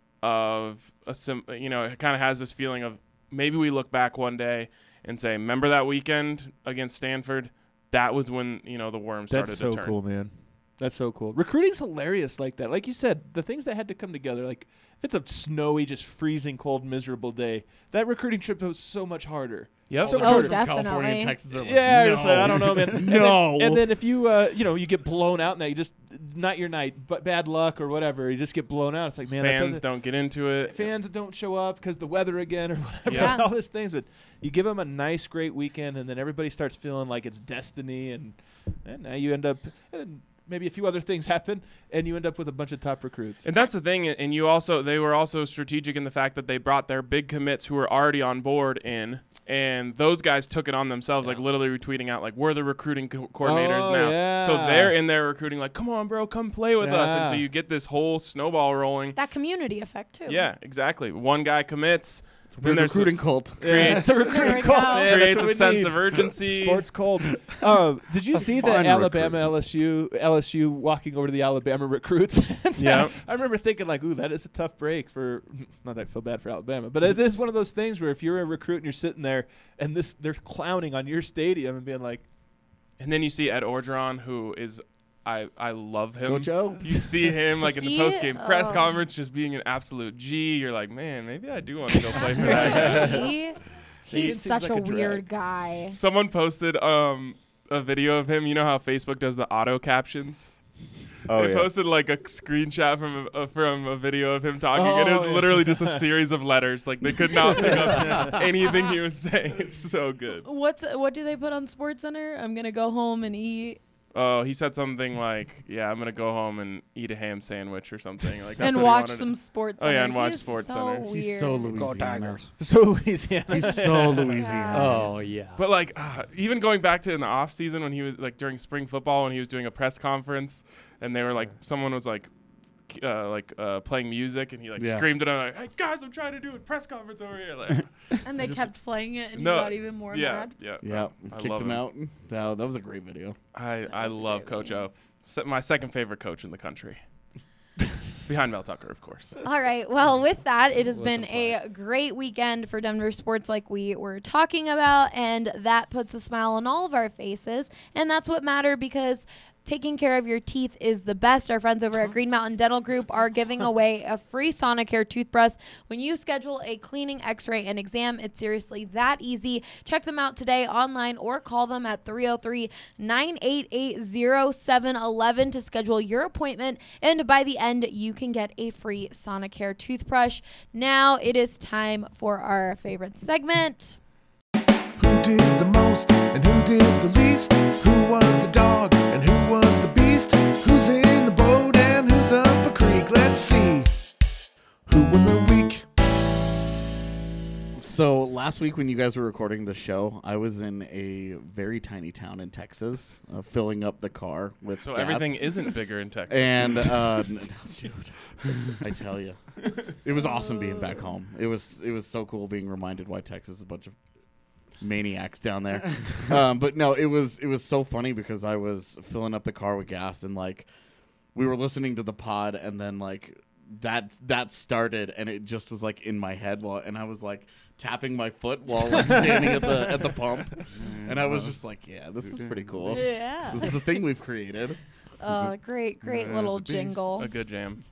S7: of, it kind of has this feeling of maybe we look back one day and say, remember that weekend against Stanford? That was when, the worm started to turn.
S10: That's so cool, man. That's so cool. Recruiting's hilarious like that. Like you said, the things that had to come together, like if it's a snowy, just freezing cold, miserable day, that recruiting trip was so much harder.
S7: Yep.
S10: So much
S6: Oh,
S10: harder.
S6: definitely.
S11: California and Texas are like,
S10: Yeah,
S11: no.
S10: it's like, I don't know, man.
S11: No.
S10: And then if you, you get blown out, now you just not your night, but bad luck or whatever. You just get blown out. It's like, man,
S7: fans don't get into it.
S10: Fans don't show up because the weather again or whatever.
S7: Yeah.
S10: All these things, but you give them a nice, great weekend, and then everybody starts feeling like it's destiny, and now you end up. Maybe a few other things happen, and you end up with a bunch of top recruits.
S7: And that's the thing. And they were also strategic in the fact that they brought their big commits who were already on board in, and those guys took it on themselves, like literally retweeting out, like, we're the recruiting coordinators now.
S10: Yeah.
S7: So they're in there recruiting, like, come on, bro, come play with us. And so you get this whole snowball rolling.
S6: That community effect, too.
S7: Yeah, exactly. One guy commits.
S11: We're a recruiting cult.
S10: It's a recruiting
S6: There we
S10: cult.
S6: go.
S10: Man,
S7: Creates
S10: that's what
S7: a
S10: we
S7: sense
S10: need.
S7: of urgency.
S10: Sports cult. Did you see the
S8: Fun
S10: Alabama LSU walking over to the Alabama recruits?
S7: Yeah.
S10: I remember thinking like, ooh, that is a tough break for. Not that I feel bad for Alabama, but it is one of those things where if you're a recruit and you're sitting there and they're clowning on your stadium and being like,
S7: And then you see Ed Orgeron, who is. I love him.
S11: Go Joe.
S7: You see him like in the
S6: He-
S7: post-game press
S6: oh.
S7: conference just being an absolute G. You're like, man, maybe I do want to go play for that guy.
S6: He's
S10: seems
S6: such
S10: like
S6: a
S10: a drag.
S6: weird guy.
S7: Someone posted a video of him. You know how Facebook does the auto captions?
S8: Oh,
S7: They
S8: yeah.
S7: posted like a screenshot from a video of him talking, and it was literally just a series of letters. Like they could not pick up anything he was saying. It's so good.
S6: What do they put on SportsCenter? I'm gonna go home and eat
S7: Oh, he said something like, "Yeah, I'm gonna go home and eat a ham sandwich or something like that."
S6: and watch some Sports.
S7: Oh, yeah, and
S6: Center.
S7: watch
S6: He's
S7: Sports
S6: so
S7: Center.
S6: Weird.
S11: He's so Louisiana.
S10: so Louisiana.
S11: He's so Louisiana.
S9: Oh, yeah.
S7: But like, even going back to in the off season when he was like during spring football when he was doing a press conference, and they were like, someone was like, playing music, and he
S11: Yeah.
S7: screamed at him like, "Hey guys, I'm trying to do a press conference over here." Like,
S6: And they kept playing it, and you
S7: no,
S6: got even more mad.
S7: Yeah,
S11: Yeah,
S7: I
S11: kicked
S7: love
S11: him out. That was a great video.
S7: I love Coach O. My second favorite coach in the country. Behind Mel Tucker, of course.
S6: All right. Well, with that, it has been a great weekend for Denver sports like we were talking about, and that puts a smile on all of our faces, and that's what matters because taking care of your teeth is the best. Our friends over at Green Mountain Dental Group are giving away a free Sonicare toothbrush when you schedule a cleaning, x-ray, and exam. It's seriously that easy. Check them out today online or call them at 303-988-0711 to schedule your appointment. And by the end, you can get a free Sonicare toothbrush. Now it is time for our favorite segment.
S5: Who did the most and who did the least? Who was the dog and who was the beast? Who's in the boat and who's up a creek? Let's see. Who won the week?
S11: So last week when you guys were recording the show, I was in a very tiny town in Texas, filling up the car with
S7: So
S11: gas.
S7: everything isn't bigger in Texas.
S11: And dude, I tell you, it was awesome being back home. It was so cool being reminded why Texas is a bunch of maniacs down there. But no, it was so funny because I was filling up the car with gas and we were listening to the pod and then that started and it just was in my head and I was tapping my foot while standing at the pump and I was just yeah, this is pretty cool.
S6: Yeah.
S11: This is a thing we've created.
S6: Great little jingle.
S7: A good jam.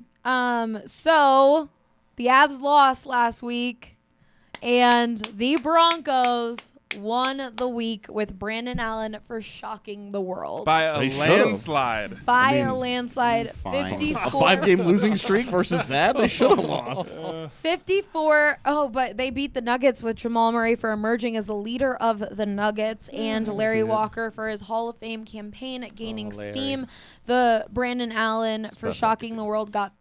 S6: So the Avs lost last week, and the Broncos won the week with Brandon Allen for shocking the world.
S7: By a landslide.
S6: By a landslide.
S11: Fine.
S6: 54.
S11: A 5-game losing streak versus that? They should have lost.
S6: 54. Oh, but they beat the Nuggets with Jamal Murray for emerging as the leader of the Nuggets and Larry Walker for his Hall of Fame campaign gaining steam. The Brandon Allen for shocking the world got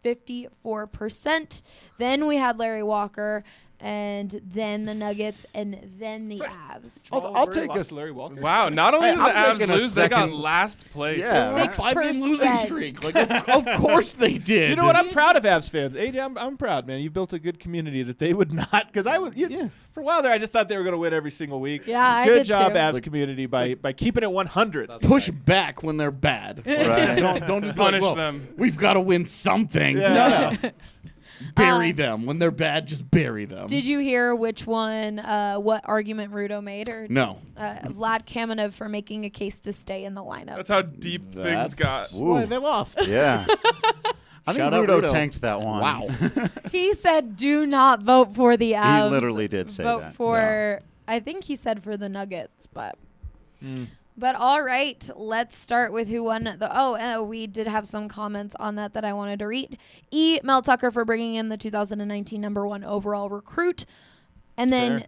S6: 54%. Then we had Larry Walker, and then the Nuggets, and then the Avs.
S10: I'll take us, Larry Walker.
S7: Wow, not only did the
S8: I'm
S7: Avs
S8: taking a
S7: lose, they got
S8: second-
S7: last place.
S8: Yeah.
S11: 5-game losing streak. Of course they did.
S10: You know what? I'm proud of Avs fans. AJ, I'm proud, man. You built a good community that they would not. Because for a while there, I just thought they were going to win every single week.
S6: Yeah, I
S10: good
S6: did
S10: job,
S6: too.
S10: Avs community, by keeping it 100.
S11: Push back when they're bad.
S8: Right.
S11: Don't just
S7: Punish
S11: be like,
S7: them.
S11: We've got to win something.
S10: Yeah.
S11: No. Bury them. When they're bad, just bury them.
S6: Did you hear which one, what argument Rudo made? Or
S11: No.
S6: Vlad Kamenev for making a case to stay in the lineup.
S7: That's how deep things got.
S11: Boy, they lost.
S8: Yeah. I think
S11: Shout out
S8: Rudo
S11: Rudo.
S8: tanked that one.
S11: Wow.
S6: He said, do not vote for the Avs.
S8: He literally did say
S6: vote
S8: that.
S6: for, I think he said for the Nuggets, but. But all right, let's start with who won the. We did have some comments on that I wanted to read. Mel Tucker for bringing in the 2019 #1 overall recruit, and then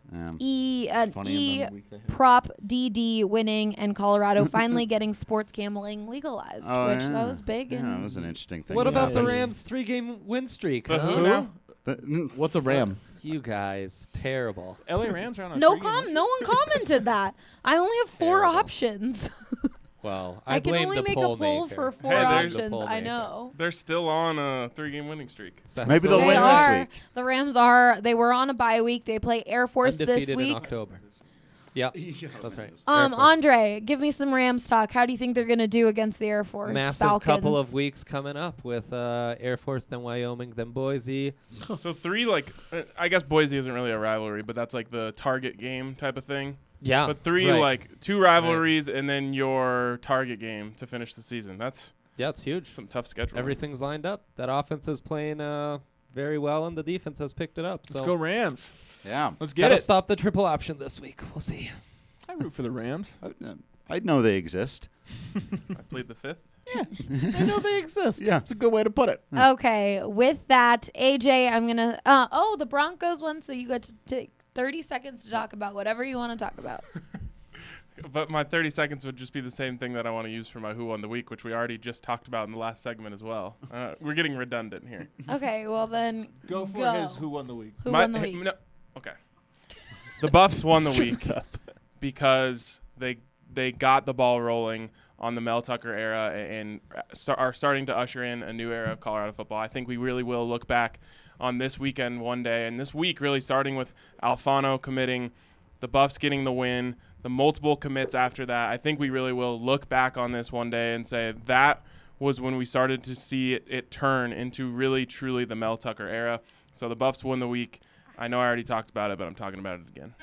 S11: Funny in the week they had.
S6: Prop DD winning and Colorado finally getting sports gambling legalized,
S8: Oh,
S6: which
S8: yeah.
S6: that was big.
S8: Yeah,
S6: and
S8: that was an interesting thing.
S9: What
S8: that
S9: about the
S8: happened.
S9: Rams' 3-game win streak?
S7: The
S9: huh?
S7: who now?
S11: What's a Ram?
S9: You guys, terrible.
S10: LA Rams are on a
S6: no
S10: three-game
S6: no one commented that. I only have 4
S9: Terrible.
S6: options.
S9: Well,
S6: I
S9: I
S6: can
S9: blame
S6: only
S9: the
S6: make
S9: poll
S6: a poll
S9: maker.
S6: for 4
S7: Hey, there's-
S9: The
S6: options.
S9: poll
S6: I
S9: maker.
S6: know.
S7: They're still on a 3-game winning streak.
S8: Maybe they'll
S6: They
S8: win
S6: are.
S8: this week.
S6: The Rams they were on a bye week. They play Air Force
S9: Undefeated
S6: this week.
S9: in October. Yep, that's right. Air Force.
S6: Andre, give me some Rams talk. How do you think they're going to do against the Air Force?
S9: Massive
S6: Falcons?
S9: couple of weeks coming up with Air Force, then Wyoming, then Boise.
S7: So 3, I guess Boise isn't really a rivalry, but that's the target game type of thing.
S9: Yeah,
S7: But 3,
S9: right.
S7: 2 rivalries and then your target game to finish the season. That's
S9: Yeah, it's huge.
S7: some tough schedule.
S9: Everything's lined up. That offense is playing very well, and the defense has picked it up. So
S10: Let's go Rams.
S8: Yeah.
S10: Let's get
S9: gotta
S10: it.
S9: stop the triple option this week. We'll see.
S10: I root for the Rams.
S8: I know they exist.
S7: I plead the 5th.
S11: I know they exist.
S8: Yeah.
S11: It's a good way to put it.
S6: Okay, with that, AJ, I'm going to. The Broncos won, so you got to take 30 seconds to talk about whatever you want to talk about.
S7: But my 30 seconds would just be the same thing that I want to use for my Who Won the Week, which we already just talked about in the last segment as well. We're getting redundant here.
S6: Okay, well then.
S10: Go for his Who Won the Week.
S6: Who won the week?
S7: Okay. The Buffs won the week because they got the ball rolling on the Mel Tucker era and are starting to usher in a new era of Colorado football. I think we really will look back on this weekend one day, and this week really starting with Alfano committing, the Buffs getting the win, the multiple commits after that. I think we really will look back on this one day and say that was when we started to see it turn into really, truly the Mel Tucker era. So the Buffs won the week. I know I already talked about it, but I'm talking about it again.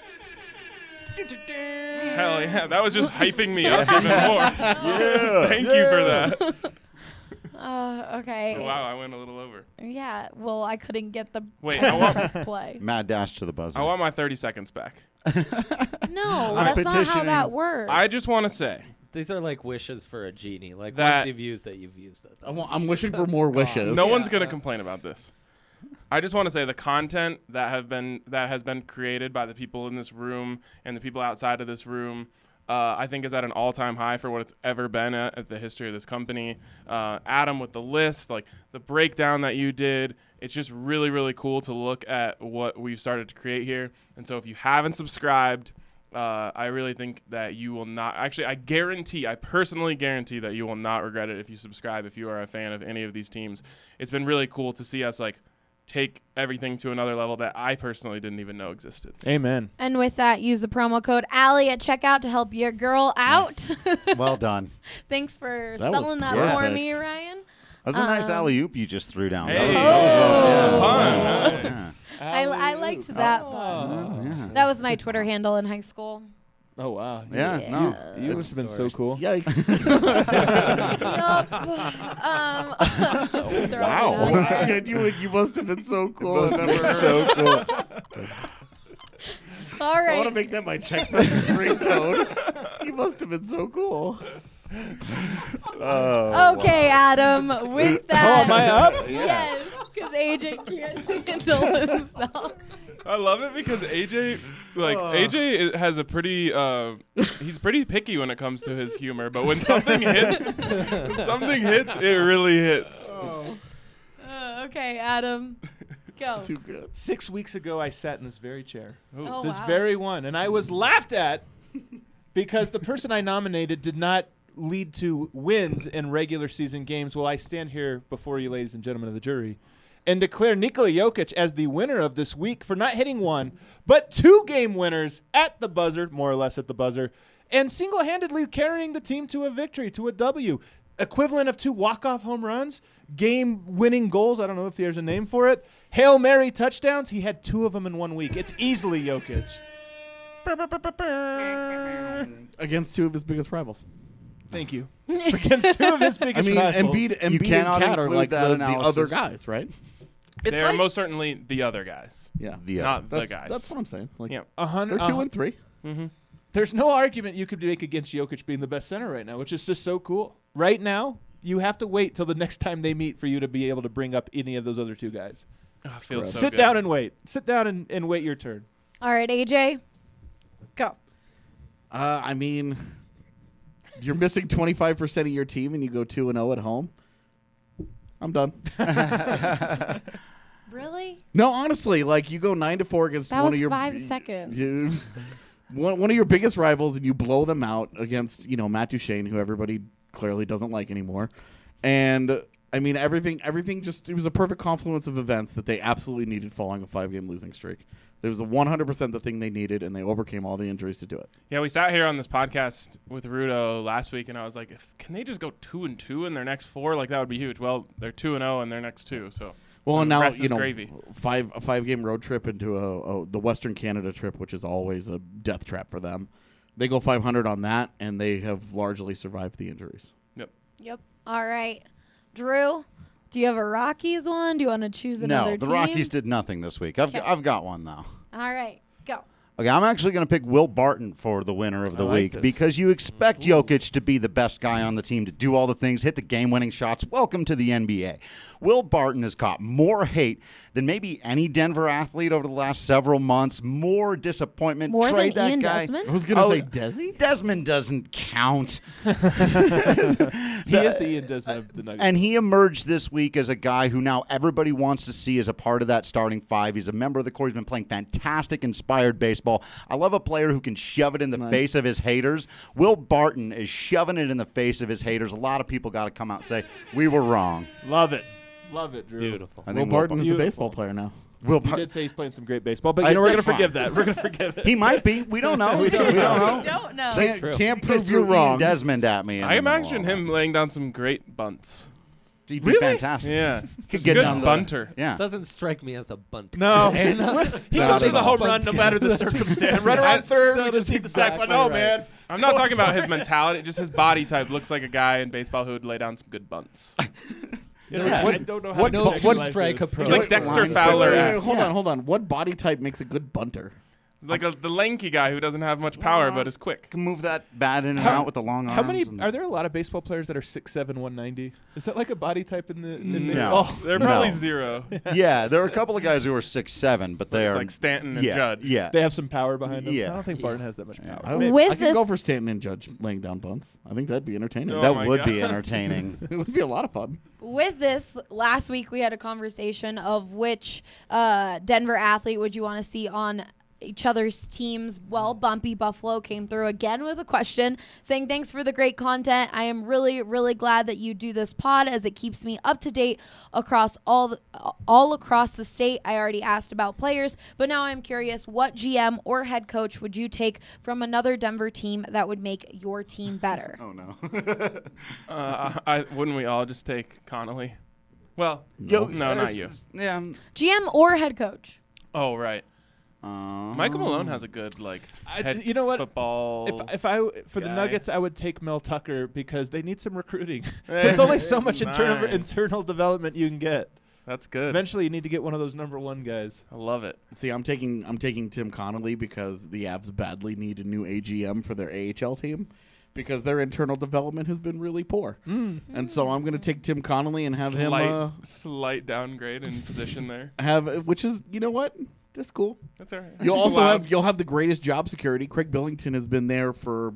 S7: Hell yeah, that was just hyping me up even more. Yeah, thank you for that.
S6: Okay.
S7: Oh, wow, I went a little over.
S6: Yeah, well, I couldn't get the play.
S8: Mad dash to the buzzer.
S7: I want my 30 seconds back.
S6: No, that's not how that works.
S7: I just want to say.
S9: These are like wishes for a genie. Like
S7: that
S9: once you've used it, you've used it.
S11: I'm wishing for more wishes.
S7: No one's going to complain about this. I just want to say the content that has been created by the people in this room and the people outside of this room, I think is at an all-time high for what it's ever been at the history of this company. Adam with the list, like the breakdown that you did, it's just really, really cool to look at what we've started to create here. And so if you haven't subscribed, I really think that you will not. Actually, I personally guarantee that you will not regret it if you subscribe, if you are a fan of any of these teams. It's been really cool to see us like take everything to another level that I personally didn't even know existed.
S10: Amen.
S6: And with that, use the promo code Allie at checkout to help your girl out.
S8: Nice. Well done.
S6: Thanks for
S8: That
S6: selling
S8: was
S6: that for
S8: perfect.
S6: me, Ryan.
S8: That was a nice alley-oop you just threw down.
S7: Hey.
S8: That was well
S7: Fun.
S8: Nice.
S6: I liked that. But that was my Twitter handle in high school.
S10: Oh, wow.
S8: Yeah, no.
S10: You must have been so cool.
S11: Yikes.
S6: Just throwing it
S11: Wow.
S6: out there.
S11: Shit, you must have been so cool.
S8: So cool.
S6: All
S11: I want to
S6: right.
S11: make that my text message ringtone. You must have been so cool.
S6: Okay, Adam. With that.
S10: Oh, am I up?
S6: Yes, because AJ can't handle himself.
S7: I love it because AJ has a pretty he's pretty picky when it comes to his humor, but when something hits, it really hits.
S6: Okay, Adam. Go.
S11: Too good.
S10: 6 weeks ago, I sat in this very chair.
S6: Oh,
S10: This
S6: wow.
S10: very one. And I was laughed at because the person I nominated did not lead to wins in regular season games. Well, I stand here before you, ladies and gentlemen of the jury, and declare Nikola Jokic as the winner of this week for not hitting one, but 2 game winners at the buzzer, more or less at the buzzer, and single-handedly carrying the team to a victory, to a W. Equivalent of 2 walk-off home runs, game-winning goals. I don't know if there's a name for it. Hail Mary touchdowns. He had 2 of them in 1 week. It's easily Jokic.
S11: Against 2 of his biggest rivals.
S10: Thank you. Against 2 of his biggest
S11: I mean,
S10: rivals.
S11: Embiid
S8: You
S11: and
S8: cannot
S11: Cat are
S8: include
S11: like
S8: that
S11: the
S8: analysis.
S11: other guys, right?
S7: They're
S10: like-
S7: most certainly the other guys,
S11: Yeah.
S7: not the
S11: That's,
S7: guys.
S11: that's what I'm saying. Like,
S7: Yeah.
S11: they're 2 and 3.
S10: There's no argument you could make against Jokic being the best center right now, which is just so cool. Right now, you have to wait till the next time they meet for you to be able to bring up any of those other 2 guys.
S7: Oh, it feels so
S10: Sit
S7: good.
S10: down and wait. Sit down and wait your turn.
S6: All right, AJ. Go.
S11: I mean, you're missing 25% of your team and you go 2-0 at home. I'm done.
S6: Really?
S11: No, honestly, like you go 9-4 against
S6: That
S11: one
S6: was
S11: of your
S6: 5 seconds.
S11: one of your biggest rivals, and you blow them out against Matt Duchene, who everybody clearly doesn't like anymore. And I mean, everything just, it was a perfect confluence of events that they absolutely needed following a 5-game losing streak. It was 100% the thing they needed, and they overcame all the injuries to do it.
S7: Yeah, we sat here on this podcast with Rudo last week, and I was like, can they just go 2-2 in their next 4? Like, that would be huge. Well, they're 2-0 in their next 2, so.
S11: Well, and
S7: the
S11: now
S7: rest is gravy.
S11: a 5-game road trip into the Western Canada trip, which is always a death trap for them. They go 500 on that, and they have largely survived the injuries.
S6: Yep. All right. Drew, do you have a Rockies one? Do you want to choose another
S8: No,
S6: team?
S8: the Rockies did nothing this week. I've got one, though.
S6: All right. Go.
S8: Okay, I'm actually going to pick Will Barton for the winner of the
S10: I like
S8: week
S10: this.
S8: because you expect Jokic to be the best guy on the team, to do all the things, hit the game-winning shots. Welcome to the NBA. Will Barton has caught more hate than maybe any Denver athlete over the last several months. More disappointment.
S6: More
S8: Trade
S6: than
S8: that
S6: Ian
S8: guy.
S6: Desmond?
S11: I was going to say Desi?
S8: Desmond doesn't count.
S10: He is the Ian Desmond of the Nuggets.
S8: And he emerged this week as a guy who now everybody wants to see as a part of that starting 5. He's a member of the core. He's been playing fantastic, inspired baseball. baseball. I love a player who can shove it in the face of his haters. Will Barton is shoving it in the face of his haters. A lot of people got to come out and say, we were wrong.
S10: Love it. Love it, Drew.
S9: Beautiful.
S11: Will Barton is a baseball player now.
S10: He did say he's playing some great baseball, but we're going to forgive that. We're going to forgive it.
S8: He might be. We don't know. We don't know.
S1: Don't know.
S11: Can't
S8: Just
S11: prove you're
S8: threw
S11: wrong.
S8: Ian Desmond at me.
S7: I imagine him laying down some great bunts.
S8: He'd be fantastic.
S7: Yeah.
S8: Could
S7: He's
S8: get
S7: a good
S8: down
S7: bunter.
S8: Yeah.
S9: Doesn't strike me as a bunt.
S10: No.
S9: And,
S10: He goes for the home run no matter the circumstance. Right around third, we just need the sack.
S9: exactly
S10: No,
S9: right.
S10: man.
S7: I'm not talking about his mentality. Just his body type looks like a guy in baseball who would lay down some good bunts.
S10: I don't know how to
S9: one
S10: contextualize
S9: strike
S10: this.
S9: approach.
S7: He's like Dexter Fowler.
S11: Wait, hold on. What body type makes a good bunter?
S7: Like the lanky guy who doesn't have much power but is quick.
S8: Can move that bat in and out with the long arms.
S10: How many
S8: and-
S10: are there? A lot of baseball players that are 6'7", 190. Is that like a body type in
S8: No.
S10: baseball?
S7: They're probably
S8: No.
S7: zero.
S8: Yeah, there are a couple of guys who are 6'7", but they
S7: It's
S8: are
S7: like Stanton and
S8: yeah,
S7: Judge.
S8: Yeah,
S10: They have some power behind them.
S8: Yeah.
S10: I don't think Barton has that much power.
S11: I
S6: With
S11: could go for Stanton and Judge laying down bunts. I think that'd be entertaining.
S7: Oh
S8: that
S7: my
S8: would
S7: God.
S8: be entertaining.
S11: It would be a lot of fun.
S6: With this, last week we had a conversation of which Denver athlete would you want to see on each other's teams. Well, Bumpy Buffalo came through again with a question saying, thanks for the great content. I am really, really glad that you do this pod as it keeps me up to date across all across the state. I already asked about players, but now I'm curious, what GM or head coach would you take from another Denver team that would make your team better?
S8: Oh no.
S7: Wouldn't we all just take Connolly? Well,
S8: Yo,
S7: no, not you.
S8: Yeah.
S6: GM or head coach?
S7: Oh, right. Michael Malone has a good head
S10: you know what?
S7: football.
S10: If I for the
S7: guy.
S10: Nuggets, I would take Mel Tucker because they need some recruiting. There's only so much
S7: Nice.
S10: internal development you can get.
S7: That's good.
S10: Eventually, you need to get one of those number one guys.
S7: I love it.
S11: See, I'm taking Tim Connolly because the Avs badly need a new AGM for their AHL team because their internal development has been really poor. And so I'm going to take Tim Connolly and have
S7: Slight downgrade in position there.
S11: which is, you know what? That's cool.
S7: That's all right.
S11: You'll
S7: It's
S11: also
S7: allowed.
S11: you'll have the greatest job security. Craig Billington has been there for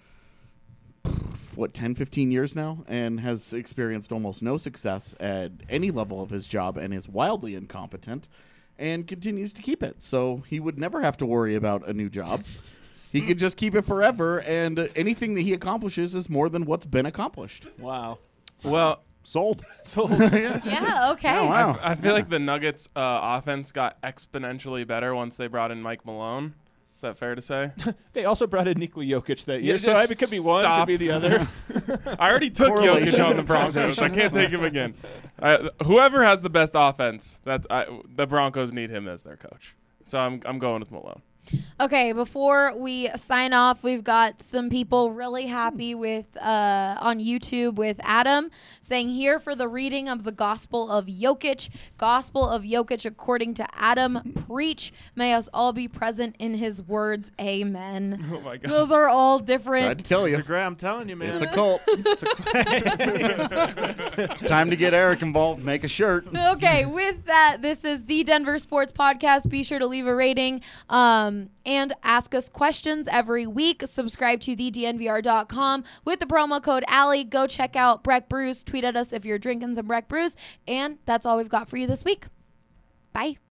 S11: 10, 15 years now and has experienced almost no success at any level of his job and is wildly incompetent and continues to keep it. So he would never have to worry about a new job. He could just keep it forever, and anything that he accomplishes is more than what's been accomplished.
S10: Wow.
S7: Well,
S8: Sold.
S6: Yeah, okay.
S8: Oh, wow.
S7: I feel like the Nuggets' offense got exponentially better once they brought in Mike Malone. Is that fair to say?
S10: They also brought in Nikola Jokic that year,
S7: Yeah,
S10: so
S7: just
S10: it could be one,
S7: stop.
S10: could be the other.
S7: I already took Jokic on the Broncos. I can't take him again. Whoever has the best offense, the Broncos need him as their coach. So I'm going with Malone.
S6: Okay, before we sign off, we've got some people really happy with on YouTube with Adam saying, here for the reading of the Gospel of Jokic. Gospel of Jokic according to Adam. Preach. May us all be present in his words. Amen.
S7: Oh my God.
S6: Those are all
S11: Tried
S6: different.
S11: to tell you.
S10: I'm telling you, man.
S8: It's a cult. Time to get Eric involved. Make a shirt.
S6: Okay, with that, this is the Denver Sports Podcast. Be sure to leave a rating and ask us questions every week. Subscribe to thednvr.com with the promo code Allie. Go check out Breck Brews. Tweet at us if you're drinking some Breck Brews. And that's all we've got for you this week. Bye.